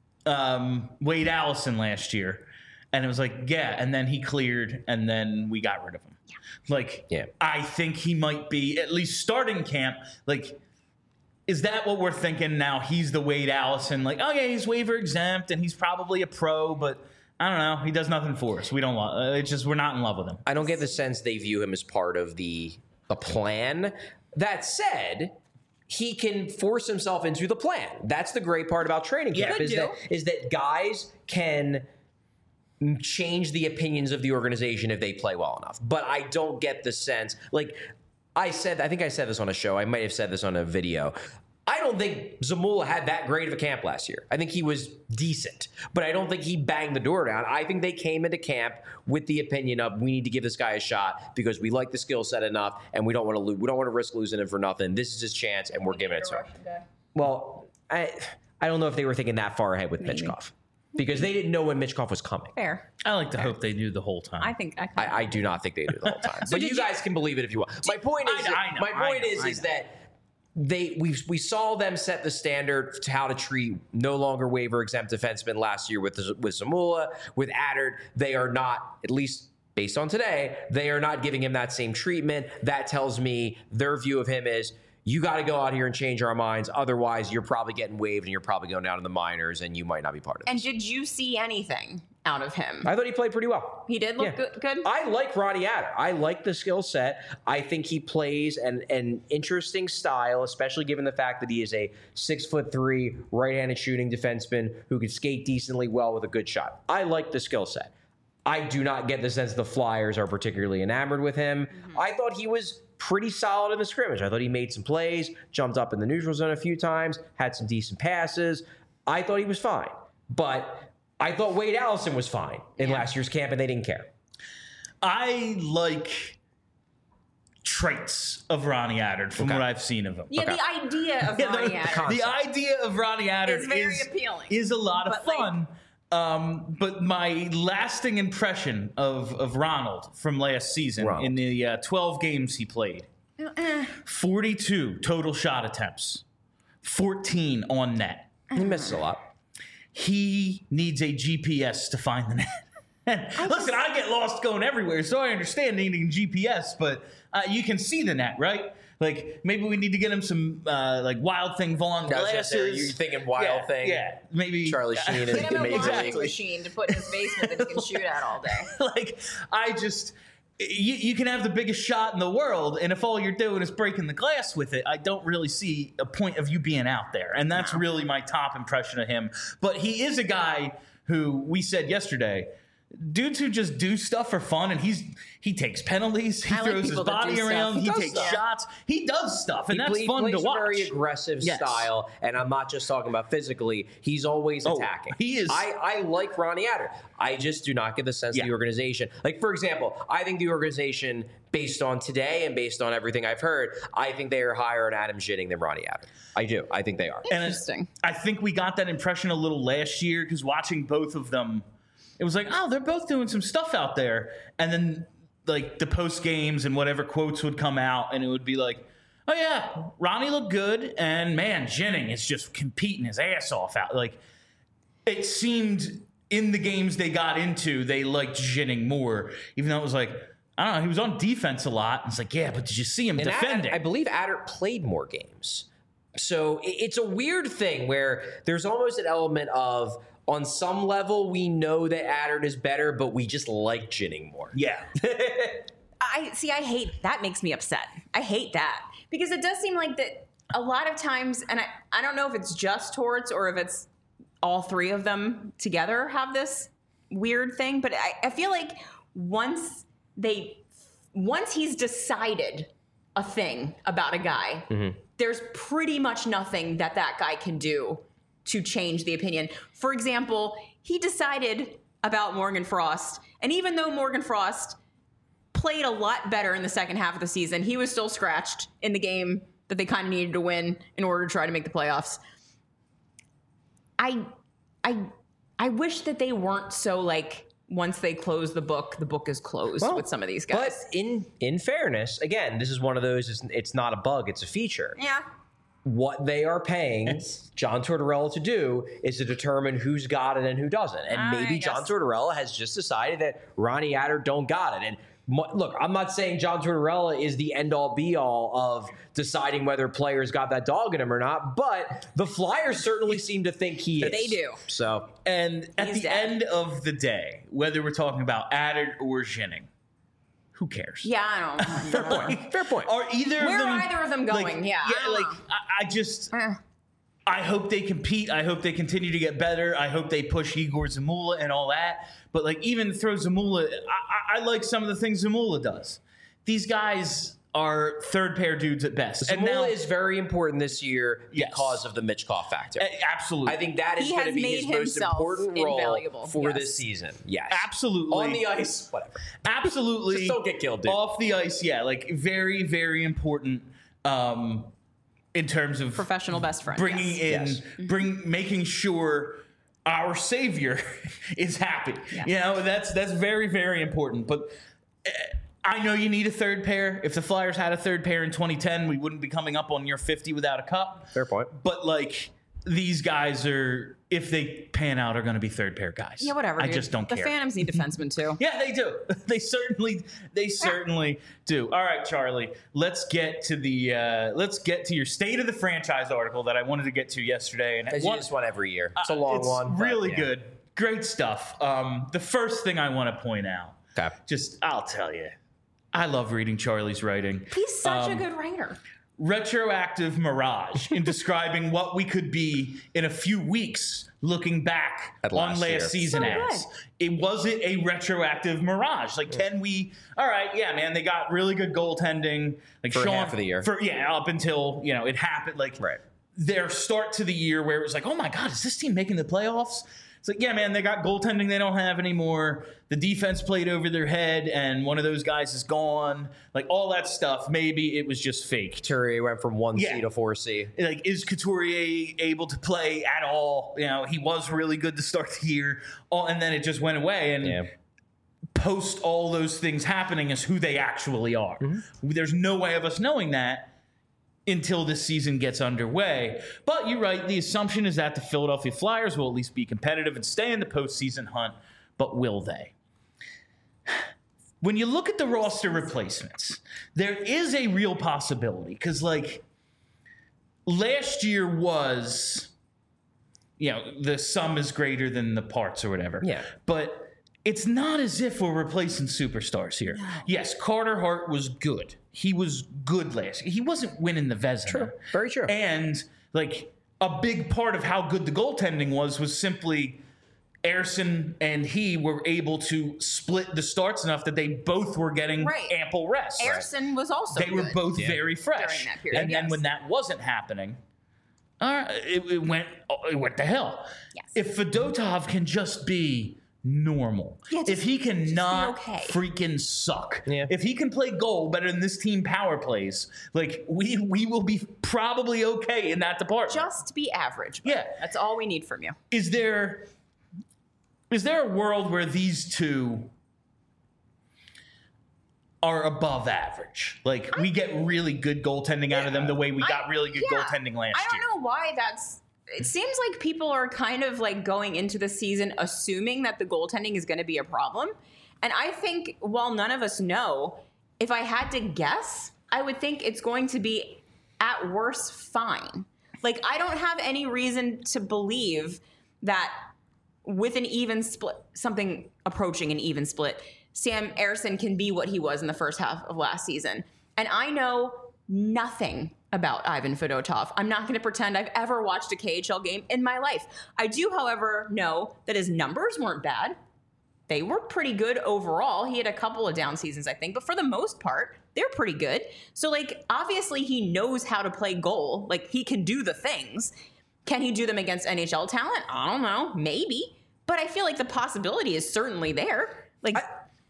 Wade Allison last year. And it was like, yeah, and then he cleared, and then we got rid of him. Yeah. Like, Yeah. I think he might be at least starting camp. Like, is that what we're thinking now? He's the Wade Allison. Like, oh, yeah, he's waiver exempt, and he's probably a pro, but I don't know. He does nothing for us. We don't love. It's just we're not in love with him. I don't get the sense they view him as part of the plan. That said, he can force himself into the plan. That's the great part about training camp is that guys can change the opinions of the organization if they play well enough. But I don't get the sense, like I think I said this on a show. I might have said this on a video. I don't think Zamula had that great of a camp last year. I think he was decent, but I don't think he banged the door down. I think they came into camp with the opinion of we need to give this guy a shot because we like the skill set enough, and we don't want to lose. We don't want to risk losing him for nothing. This is his chance, and we're giving it to him. Well, I don't know if they were thinking that far ahead with Michkov because they didn't know when Michkov was coming. Fair. I like to hope they knew the whole time. I think I do not think they do the whole time. But you guys can believe it if you want. My point is, I know, is that we saw them set the standard to how to treat no longer waiver exempt defensemen last year with Zamula. With Adder, they are not, at least based on today, they are not giving him that same treatment. That tells me their view of him is, you got to go out here and change our minds. Otherwise, you're probably getting waived and you're probably going down in the minors and you might not be part of it. And did you see anything out of him? I thought he played pretty well. He did look good? I like Ronnie Adder. I like the skill set. I think he plays an interesting style, especially given the fact that he is a 6'3" right-handed shooting defenseman who can skate decently well with a good shot. I like the skill set. I do not get the sense the Flyers are particularly enamored with him. I thought he was pretty solid in the scrimmage. I thought he made some plays, jumped up in the neutral zone a few times, had some decent passes. I thought he was fine. But I thought Wade Allison was fine in last year's camp, and they didn't care. I like traits of Ronnie Adder from what I've seen of him. Yeah, the idea of Ronnie Adder. The idea of Ronnie Adder is very appealing. Is a lot of fun. But my lasting impression of Ronald from last season in the 12 games he played, 42 total shot attempts, 14 on net. He misses a lot. He needs a GPS to find the net. Listen, I get lost going everywhere, so I understand needing GPS, but you can see the net, right? Like, maybe we need to get him some, like, Wild Thing Vaughn glasses. You're thinking Wild Thing. Yeah, maybe. Charlie Sheen is Get him a amazing. laundry machine to put in his basement that he can shoot at all day. Like, you can have the biggest shot in the world, and if all you're doing is breaking the glass with it, I don't really see a point of you being out there. And that's really my top impression of him. But he is a guy who, we said yesterday, dudes who just do stuff for fun, and he takes penalties, he throws his body around, he takes shots, he does stuff, and that's fun to watch. A very aggressive style, and I'm not just talking about physically. He's always attacking. He is. I like Ronnie Adder. I just do not get the sense of the organization. Like, for example, I think the organization, based on today and based on everything I've heard, I think they are higher on Adam Schitting than Ronnie Adder. I do. I think they are. Interesting. And I think we got that impression a little last year because watching both of them, it was like, oh, they're both doing some stuff out there. And then, like, the post games and whatever quotes would come out, and it would be like, oh, yeah, Ronnie looked good, and, man, Jennings is just competing his ass off out. Like, it seemed in the games they got into, they liked Jennings more, even though it was like, I don't know, he was on defense a lot. And it's like, yeah, but did you see him defending? I believe Adder played more games. So it's a weird thing where there's almost an element of, on some level, we know that Adder is better, but we just like Jennings more. Yeah. I hate that. Makes me upset. I hate that because it does seem like that a lot of times, and I don't know if it's just Torts or if it's all three of them together have this weird thing, but I feel like once he's decided a thing about a guy, there's pretty much nothing that guy can do to change the opinion. For example, he decided about Morgan Frost, and even though Morgan Frost played a lot better in the second half of the season, he was still scratched in the game that they kind of needed to win in order to try to make the playoffs. I wish that they weren't so like, once they close the book is closed with some of these guys. But in fairness, again, this is one of those, it's not a bug, it's a feature. Yeah. What they are paying John Tortorella to do is to determine who's got it and who doesn't. And maybe John Tortorella has just decided that Ronnie Adder don't got it. And look, I'm not saying John Tortorella is the end-all, be-all of deciding whether players got that dog in him or not, but the Flyers certainly seem to think he is. They do. So, and at the end of the day, whether we're talking about Adder or Jennings, who cares? Yeah, I don't know. Fair point. Are either of them going? I hope they compete. I hope they continue to get better. I hope they push Igor Zamula and all that. But like, even throw Zamula, I like some of the things Zamula does. These guys are third pair dudes at best. Zamula is very important this year because of the Mitchkov factor. Absolutely. I think that is going to be his most important role for this season. Yes. Absolutely. On the ice, whatever. Absolutely. Just don't get killed, dude. Off the ice, yeah. Like, very, very important in terms of professional best friend. Making sure our savior is happy. Yeah. You know, that's very, very important. But I know you need a third pair. If the Flyers had a third pair in 2010, we wouldn't be coming up on year 50 without a cup. Fair point. But like these guys are, if they pan out, are going to be third pair guys. Yeah, whatever. I dude. just don't the care. The Phantoms need defensemen too. Yeah, they do. They certainly do. All right, Charlie. Let's get to your state of the franchise article that I wanted to get to yesterday. And Because you just one every year. It's a long one. but, Really yeah. good. Great stuff. The first thing I want to point out. Okay. I'll tell you, I love reading Charlie's writing. He's such a good writer. Retroactive mirage in describing what we could be in a few weeks looking back At on last last year. season So as. It wasn't a retroactive mirage. Like, can we? All right, yeah, man. They got really good goaltending. Like For half of the year. Up until it happened. Like Right. their start to the year where it was like, oh my god, is this team making the playoffs? It's like, yeah, man, they got goaltending they don't have anymore. The defense played over their head, and one of those guys is gone. Like, all that stuff, maybe it was just fake. Couturier went from 1C to 4C. Like, is Couturier able to play at all? He was really good to start the year, and then it just went away. And post all those things happening is who they actually are. Mm-hmm. There's no way of us knowing that until this season gets underway. But you're right. The assumption is that the Philadelphia Flyers will at least be competitive and stay in the postseason hunt. But will they? When you look at the roster replacements, there is a real possibility. Because, like, last year was, the sum is greater than the parts or whatever. Yeah. But it's not as if we're replacing superstars here. No. Yes, Carter Hart was good. He was good last year. He wasn't winning the Vezina. True. Very true. And, like, a big part of how good the goaltending was simply Ersson and he were able to split the starts enough that they both were getting ample rest. Ersson was also They were both very fresh. during that period. And then when that wasn't happening, it went to hell. Yes. If Fedotov can just be normal. Yeah, if he can not okay. freaking suck. Yeah. If he can play goal better than this team power plays, like we will be probably okay in that department. Just be average. Yeah. That's all we need from you. Is there a world where these two are above average? Like we get really good goaltending out of them the way we got really good goaltending last year. I don't know why it seems like people are kind of like going into the season assuming that the goaltending is going to be a problem. And I think while none of us know, if I had to guess, I would think it's going to be at worst fine. Like I don't have any reason to believe that with an even split, something approaching an even split, Sam Ersson can be what he was in the first half of last season. And I know nothing about Ivan Fedotov. I'm not going to pretend I've ever watched a KHL game in my life. I do, however, know that his numbers weren't bad. They were pretty good overall. He had a couple of down seasons, I think, but for the most part, they're pretty good. So, like, obviously he knows how to play goal. Like, he can do the things. Can he do them against NHL talent? I don't know. Maybe. But I feel like the possibility is certainly there. Like,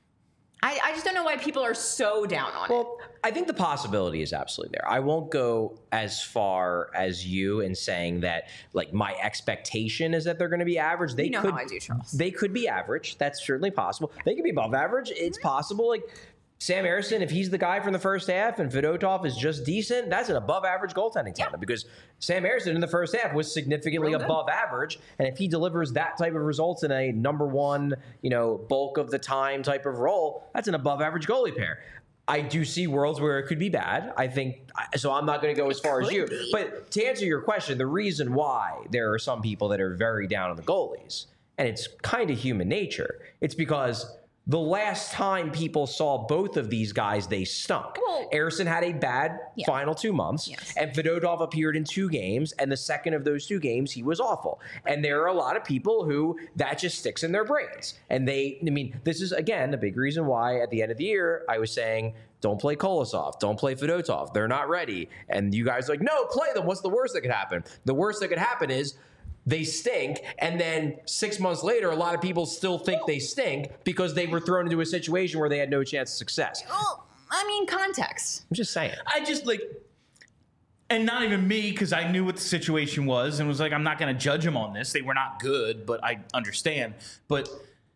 I just don't know why people are so down on it. Well, I think the possibility is absolutely there. I won't go as far as you in saying that, like, my expectation is that they're going to be average. They how could, I do, Charles. They could be average. That's certainly possible. They could be above average. It's possible. Like, Sam Ersson, if he's the guy from the first half and Fedotov is just decent, that's an above average goaltending tandem because Sam Ersson in the first half was significantly above average. And if he delivers that type of results in a number one, bulk of the time type of role, that's an above average goalie pair. I do see worlds where it could be bad. I think so. I'm not going to go as far as you. But to answer your question, the reason why there are some people that are very down on the goalies, and it's kind of human nature, it's because the last time people saw both of these guys, they stunk. Well, Ersson had a bad final 2 months, and Fedotov appeared in 2 games, and the second of those 2 games, he was awful. And there are a lot of people who that just sticks in their brains. And this is, again, a big reason why at the end of the year, I was saying, don't play Kolosov, don't play Fedotov. They're not ready. And you guys are like, no, play them. What's the worst that could happen? The worst that could happen is they stink, and then 6 months later, a lot of people still think they stink because they were thrown into a situation where they had no chance of success. Well, context. I'm just saying. I just and not even me, because I knew what the situation was and was like, I'm not going to judge them on this. They were not good, but I understand. But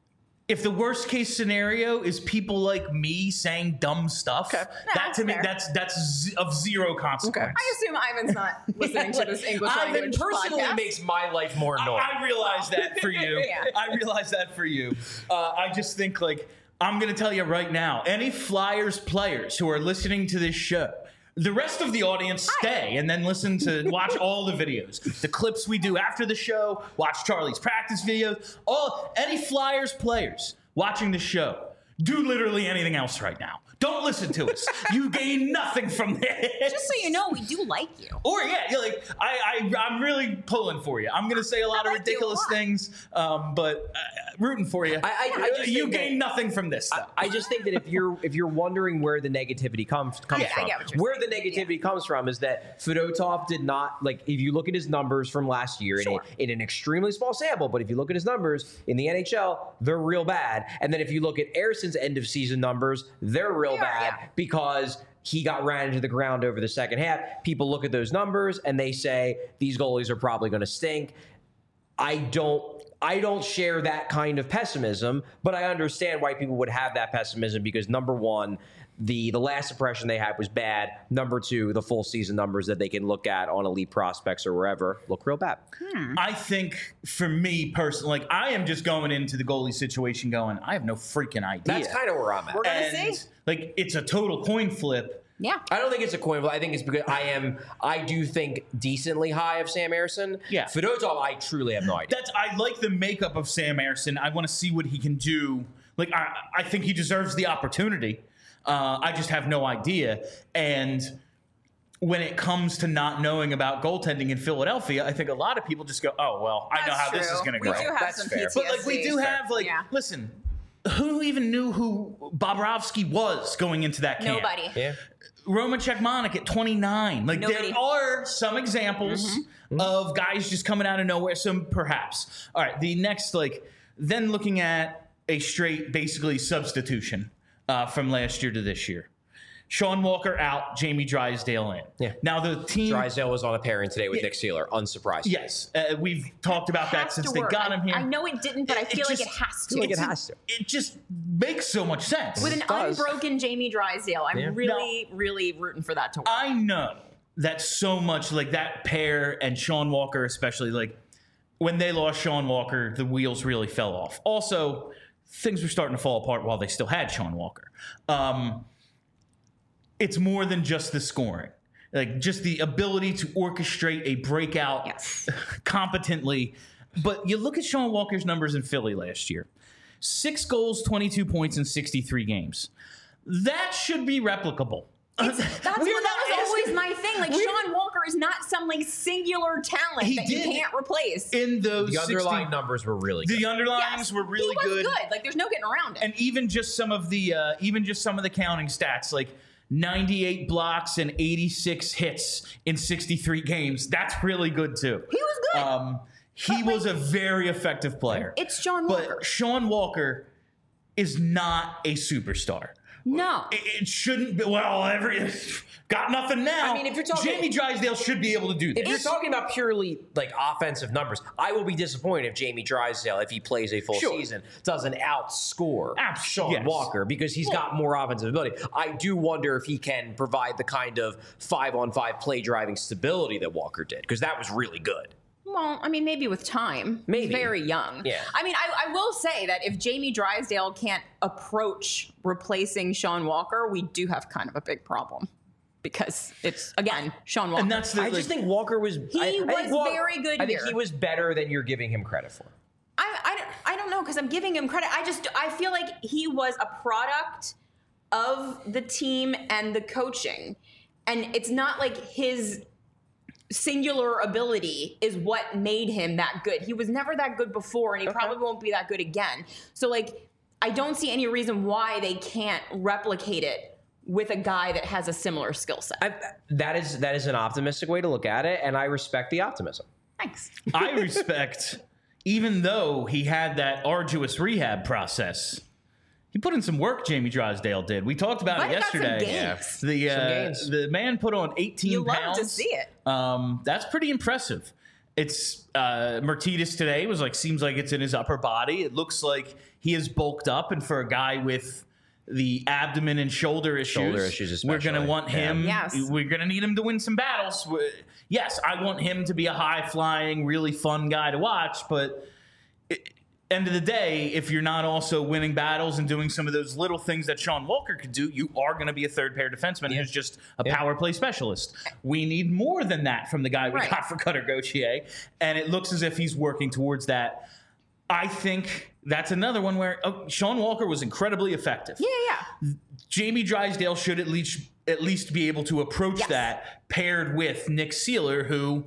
if the worst case scenario is people like me saying dumb stuff, that that's to me, fair. that's of zero consequence. I assume Ivan's not listening to this English Ivan language personally podcast. makes my life more annoying. I realize that for you. Yeah. I realize that for you. I just think, like, I'm going to tell you right now, any Flyers players who are listening to this show, the rest of the audience stay and then watch all the videos, the clips we do after the show, watch Charlie's practice videos, any Flyers players watching the show, do literally anything else right now. Don't listen to us. You gain nothing from this. Just so you know, we do like you. Or you're like, I'm really pulling for you. I'm gonna say a lot of like you a ridiculous lot. things, but rooting for you. I just you think gain nothing from this stuff. I just think that if you're wondering where the negativity comes from, I get what you're where the saying. negativity comes from is that Fedotov did not, like, if you look at his numbers from last year Sure. in an extremely small sample, but if you look at his numbers in the NHL, they're real bad. And then if you look at Erson's end of season numbers, they're real They are, bad yeah. because he got ran into the ground over the second half. People look at those numbers and they say these goalies are probably going to stink. I don't share that kind of pessimism, but I understand why people would have that pessimism because, number one, the last impression they had was bad. Number two, the full season numbers that they can look at on Elite Prospects or wherever look real bad. I think for me personally, like, I am just going into the goalie situation going, I have no freaking idea. That's kind of where I'm at. We're gonna and see. like, it's a total coin flip. Yeah. I don't think it's a coin flip. I think it's because I do think decently high of Sam Ersson. Yeah. Fedotov, I truly have no idea. I like the makeup of Sam Ersson. I want to see what he can do. Like, I think he deserves the opportunity. I just have no idea. And when it comes to not knowing about goaltending in Philadelphia, I think a lot of people just go, oh, well, I know That's how this is true. going to We go. do have That's some fair. PTSD. But, like, we do have, like, Yeah. listen, who even knew who Bobrovsky was going into that camp? Nobody. Yeah. Roman Czechmanek at 29. Like, Nobody. there are some examples of guys just coming out of nowhere. So perhaps. All right, the next, like, then looking at a straight, basically, substitution from last year to this year. Sean Walker out, Jamie Drysdale in. Yeah. Now the team. Drysdale was on a pairing today with Nick Seeler. Unsurprised. Yes, we've talked about that Has since to they work. got him here. I know it didn't, but I feel like just- it has to. like it has to. It just makes so much sense. With an does. unbroken Jamie Drysdale, I'm Yeah. really, really rooting for that to work. I know that so much, like that pair and Sean Walker, especially, like when they lost Sean Walker, the wheels really fell off. Also, things were starting to fall apart while they still had Sean Walker. It's more than just the scoring, like just the ability to orchestrate a breakout Yes. competently. But you look at Sean Walker's numbers in Philly last year: 6 goals, 22 points in 63 games. That should be replicable. That was always my thing. Like, we're- Sean Walker is not some, like, singular talent He that you did- can't replace. in those The 60 underlying numbers were really good. The underlines Yes, were really he was good. Like, there's no getting around it. And even just some of the counting stats, like 98 blocks and 86 hits in 63 games. That's really good too. He was good. He was a very effective player. It's Sean Walker. But Sean Walker is not a superstar. No. It shouldn't be. Well, got nothing now. I mean, if you're talking- Jamie Drysdale should be able to do If this. you're talking about purely like offensive numbers, I will be disappointed if Jamie Drysdale, if he plays a full Sure. season, doesn't outscore Sean yes. Walker because he's got more offensive ability. I do wonder if he can provide the kind of 5-on-5 play driving stability that Walker did because that was really good. Well, I mean, maybe with time. Maybe. He's very young. Yeah. I mean, I will say that if Jamie Drysdale can't approach replacing Sean Walker, we do have kind of a big problem. Because it's, again, Sean Walker. and that's the. I just think Walker was. I think was very good I think here. he was better than you're giving him credit for. I don't know, because I'm giving him credit. I feel like he was a product of the team and the coaching. And it's not like his singular ability is what made him that good. He was never that good before, and he probably won't be that good again. So, like, I don't see any reason why they can't replicate it with a guy that has a similar skill set. That is an optimistic way to look at it, and I respect the optimism. Thanks. I respect, even though he had that arduous rehab process, he put in some work. Jamie Drysdale did. We talked about But it he got some yesterday. gains. Some gains. The man put on 18 You pounds. love to see it. That's pretty impressive. It's Martinez today was like, seems like it's in his upper body. It looks like he is bulked up, and for a guy with the abdomen and shoulder issues we're going to want him. Yes. We're going to need him to win some battles. Yes, I want him to be a high flying, really fun guy to watch, but end of the day, if you're not also winning battles and doing some of those little things that Sean Walker could do, you are going to be a third pair defenseman who's just a power play specialist. We need more than that from the guy we got for Cutter Gauthier, and it looks as if he's working towards that. I think that's another one where Sean Walker was incredibly effective. Yeah. Jamie Drysdale should at least be able to approach that, paired with Nick Seeler, who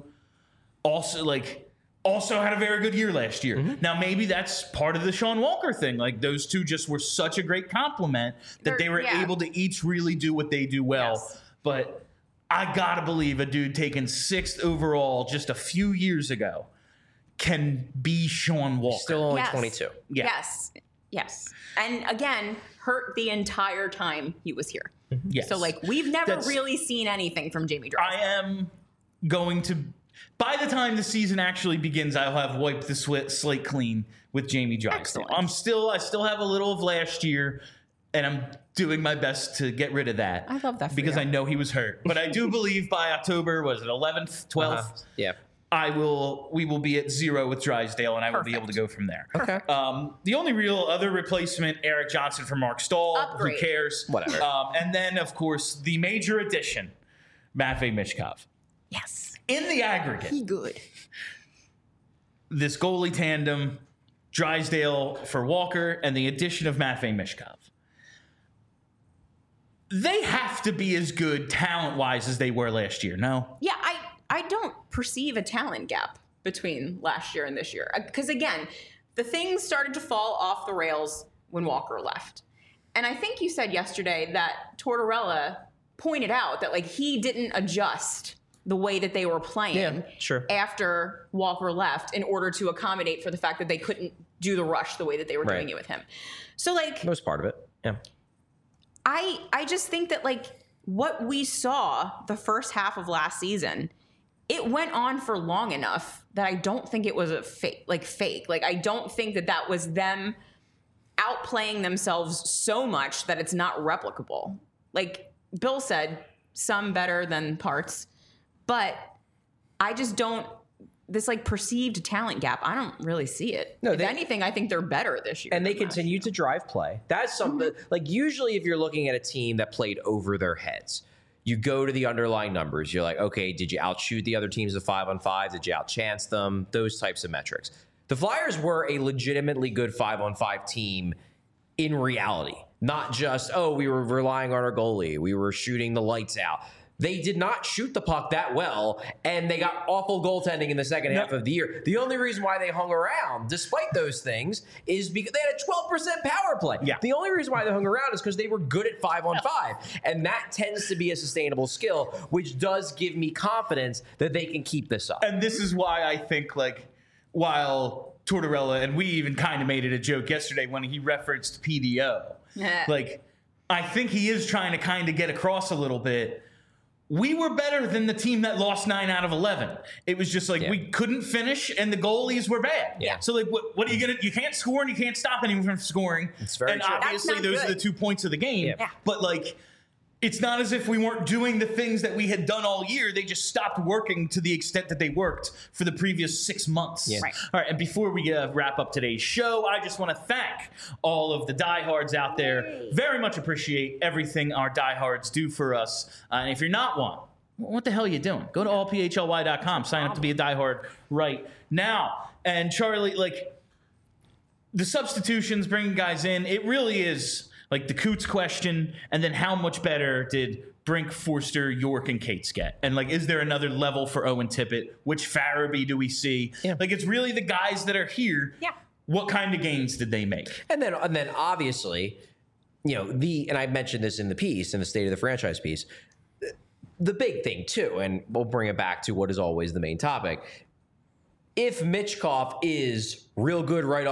also had a very good year last year. Now, maybe that's part of the Sean Walker thing. Like, those two just were such a great compliment that they were able to each really do what they do well. Yes. But I got to believe a dude taken 6th overall just a few years ago can be Sean Walker. Still only 22. Yeah. Yes. And again, hurt the entire time he was here. Yes. So, like, we've never really seen anything from Jamie Drysdale. I am going to... By the time the season actually begins, I'll have wiped the slate clean with Jamie Drysdale. I still have a little of last year, and I'm doing my best to get rid of that. I love that for because you. I know he was hurt. But I do believe by October, was it 11th, 12th? Yeah. We will be at 0 with Drysdale, and I will be able to go from there. Okay. The only real other replacement, Eric Johnson for Mark Stahl. Upgrade. Who cares? Whatever. And then, of course, the major addition, Matvei Michkov. Yes. In the aggregate, He good. this goalie tandem, Drysdale for Walker, and the addition of Matvei Michkov, they have to be as good talent-wise as they were last year, no? Yeah, I don't perceive a talent gap between last year and this year. Because, again, the things started to fall off the rails when Walker left. And I think you said yesterday that Tortorella pointed out that, like, he didn't adjust the way that they were playing after Walker left in order to accommodate for the fact that they couldn't do the rush the way that they were doing it with him. So, like... That was part of it, yeah. I just think that, like, what we saw the first half of last season, it went on for long enough that I don't think it was a fake. Like, I don't think that that was them outplaying themselves so much that it's not replicable. Like Bill said, some better than parts. But I just don't, this like perceived talent gap, I don't really see it. No, if anything, I think they're better this year. And they continue to drive play. That's something, like usually if you're looking at a team that played over their heads, you go to the underlying numbers. You're like, okay, did you outshoot the other teams of 5-on-5? Did you outchance them? Those types of metrics. The Flyers were a legitimately good 5-on-5 team in reality. Not just, we were relying on our goalie. We were shooting the lights out. They did not shoot the puck that well, and they got awful goaltending in the second half of the year. The only reason why they hung around, despite those things, is because they had a 12% power play. Yeah. The only reason why they hung around is because they were good at 5-on-5. And that tends to be a sustainable skill, which does give me confidence that they can keep this up. And this is why I think, like, while Tortorella, and we even kind of made it a joke yesterday when he referenced PDO, like, I think he is trying to kind of get across a little bit. We were better than the team that lost 9 out of 11. It was just like we couldn't finish, and the goalies were bad. Yeah. So like, what are you gonna? You can't score, and you can't stop anyone from scoring. It's very and true. obviously, those are the 2 points of the game. Yeah. But like, it's not as if we weren't doing the things that we had done all year. They just stopped working to the extent that they worked for the previous 6 months. Yeah. Right. All right, and before we wrap up today's show, I just want to thank all of the diehards out there. Very much appreciate everything our diehards do for us. And if you're not one, what the hell are you doing? Go to allphly.com, sign up to be a diehard right now. And Charlie, like, the substitutions, bringing guys in, it really is like the Coots question, and then how much better did Brink, Forster, York, and Cates get? And, like, is there another level for Owen Tippett? Which Farabee do we see? Yeah. Like, it's really the guys that are here. Yeah. What kind of gains did they make? And then obviously, you know, and I mentioned this in the piece, in the State of the Franchise piece, the big thing too, and we'll bring it back to what is always the main topic. If Michkov is real good right off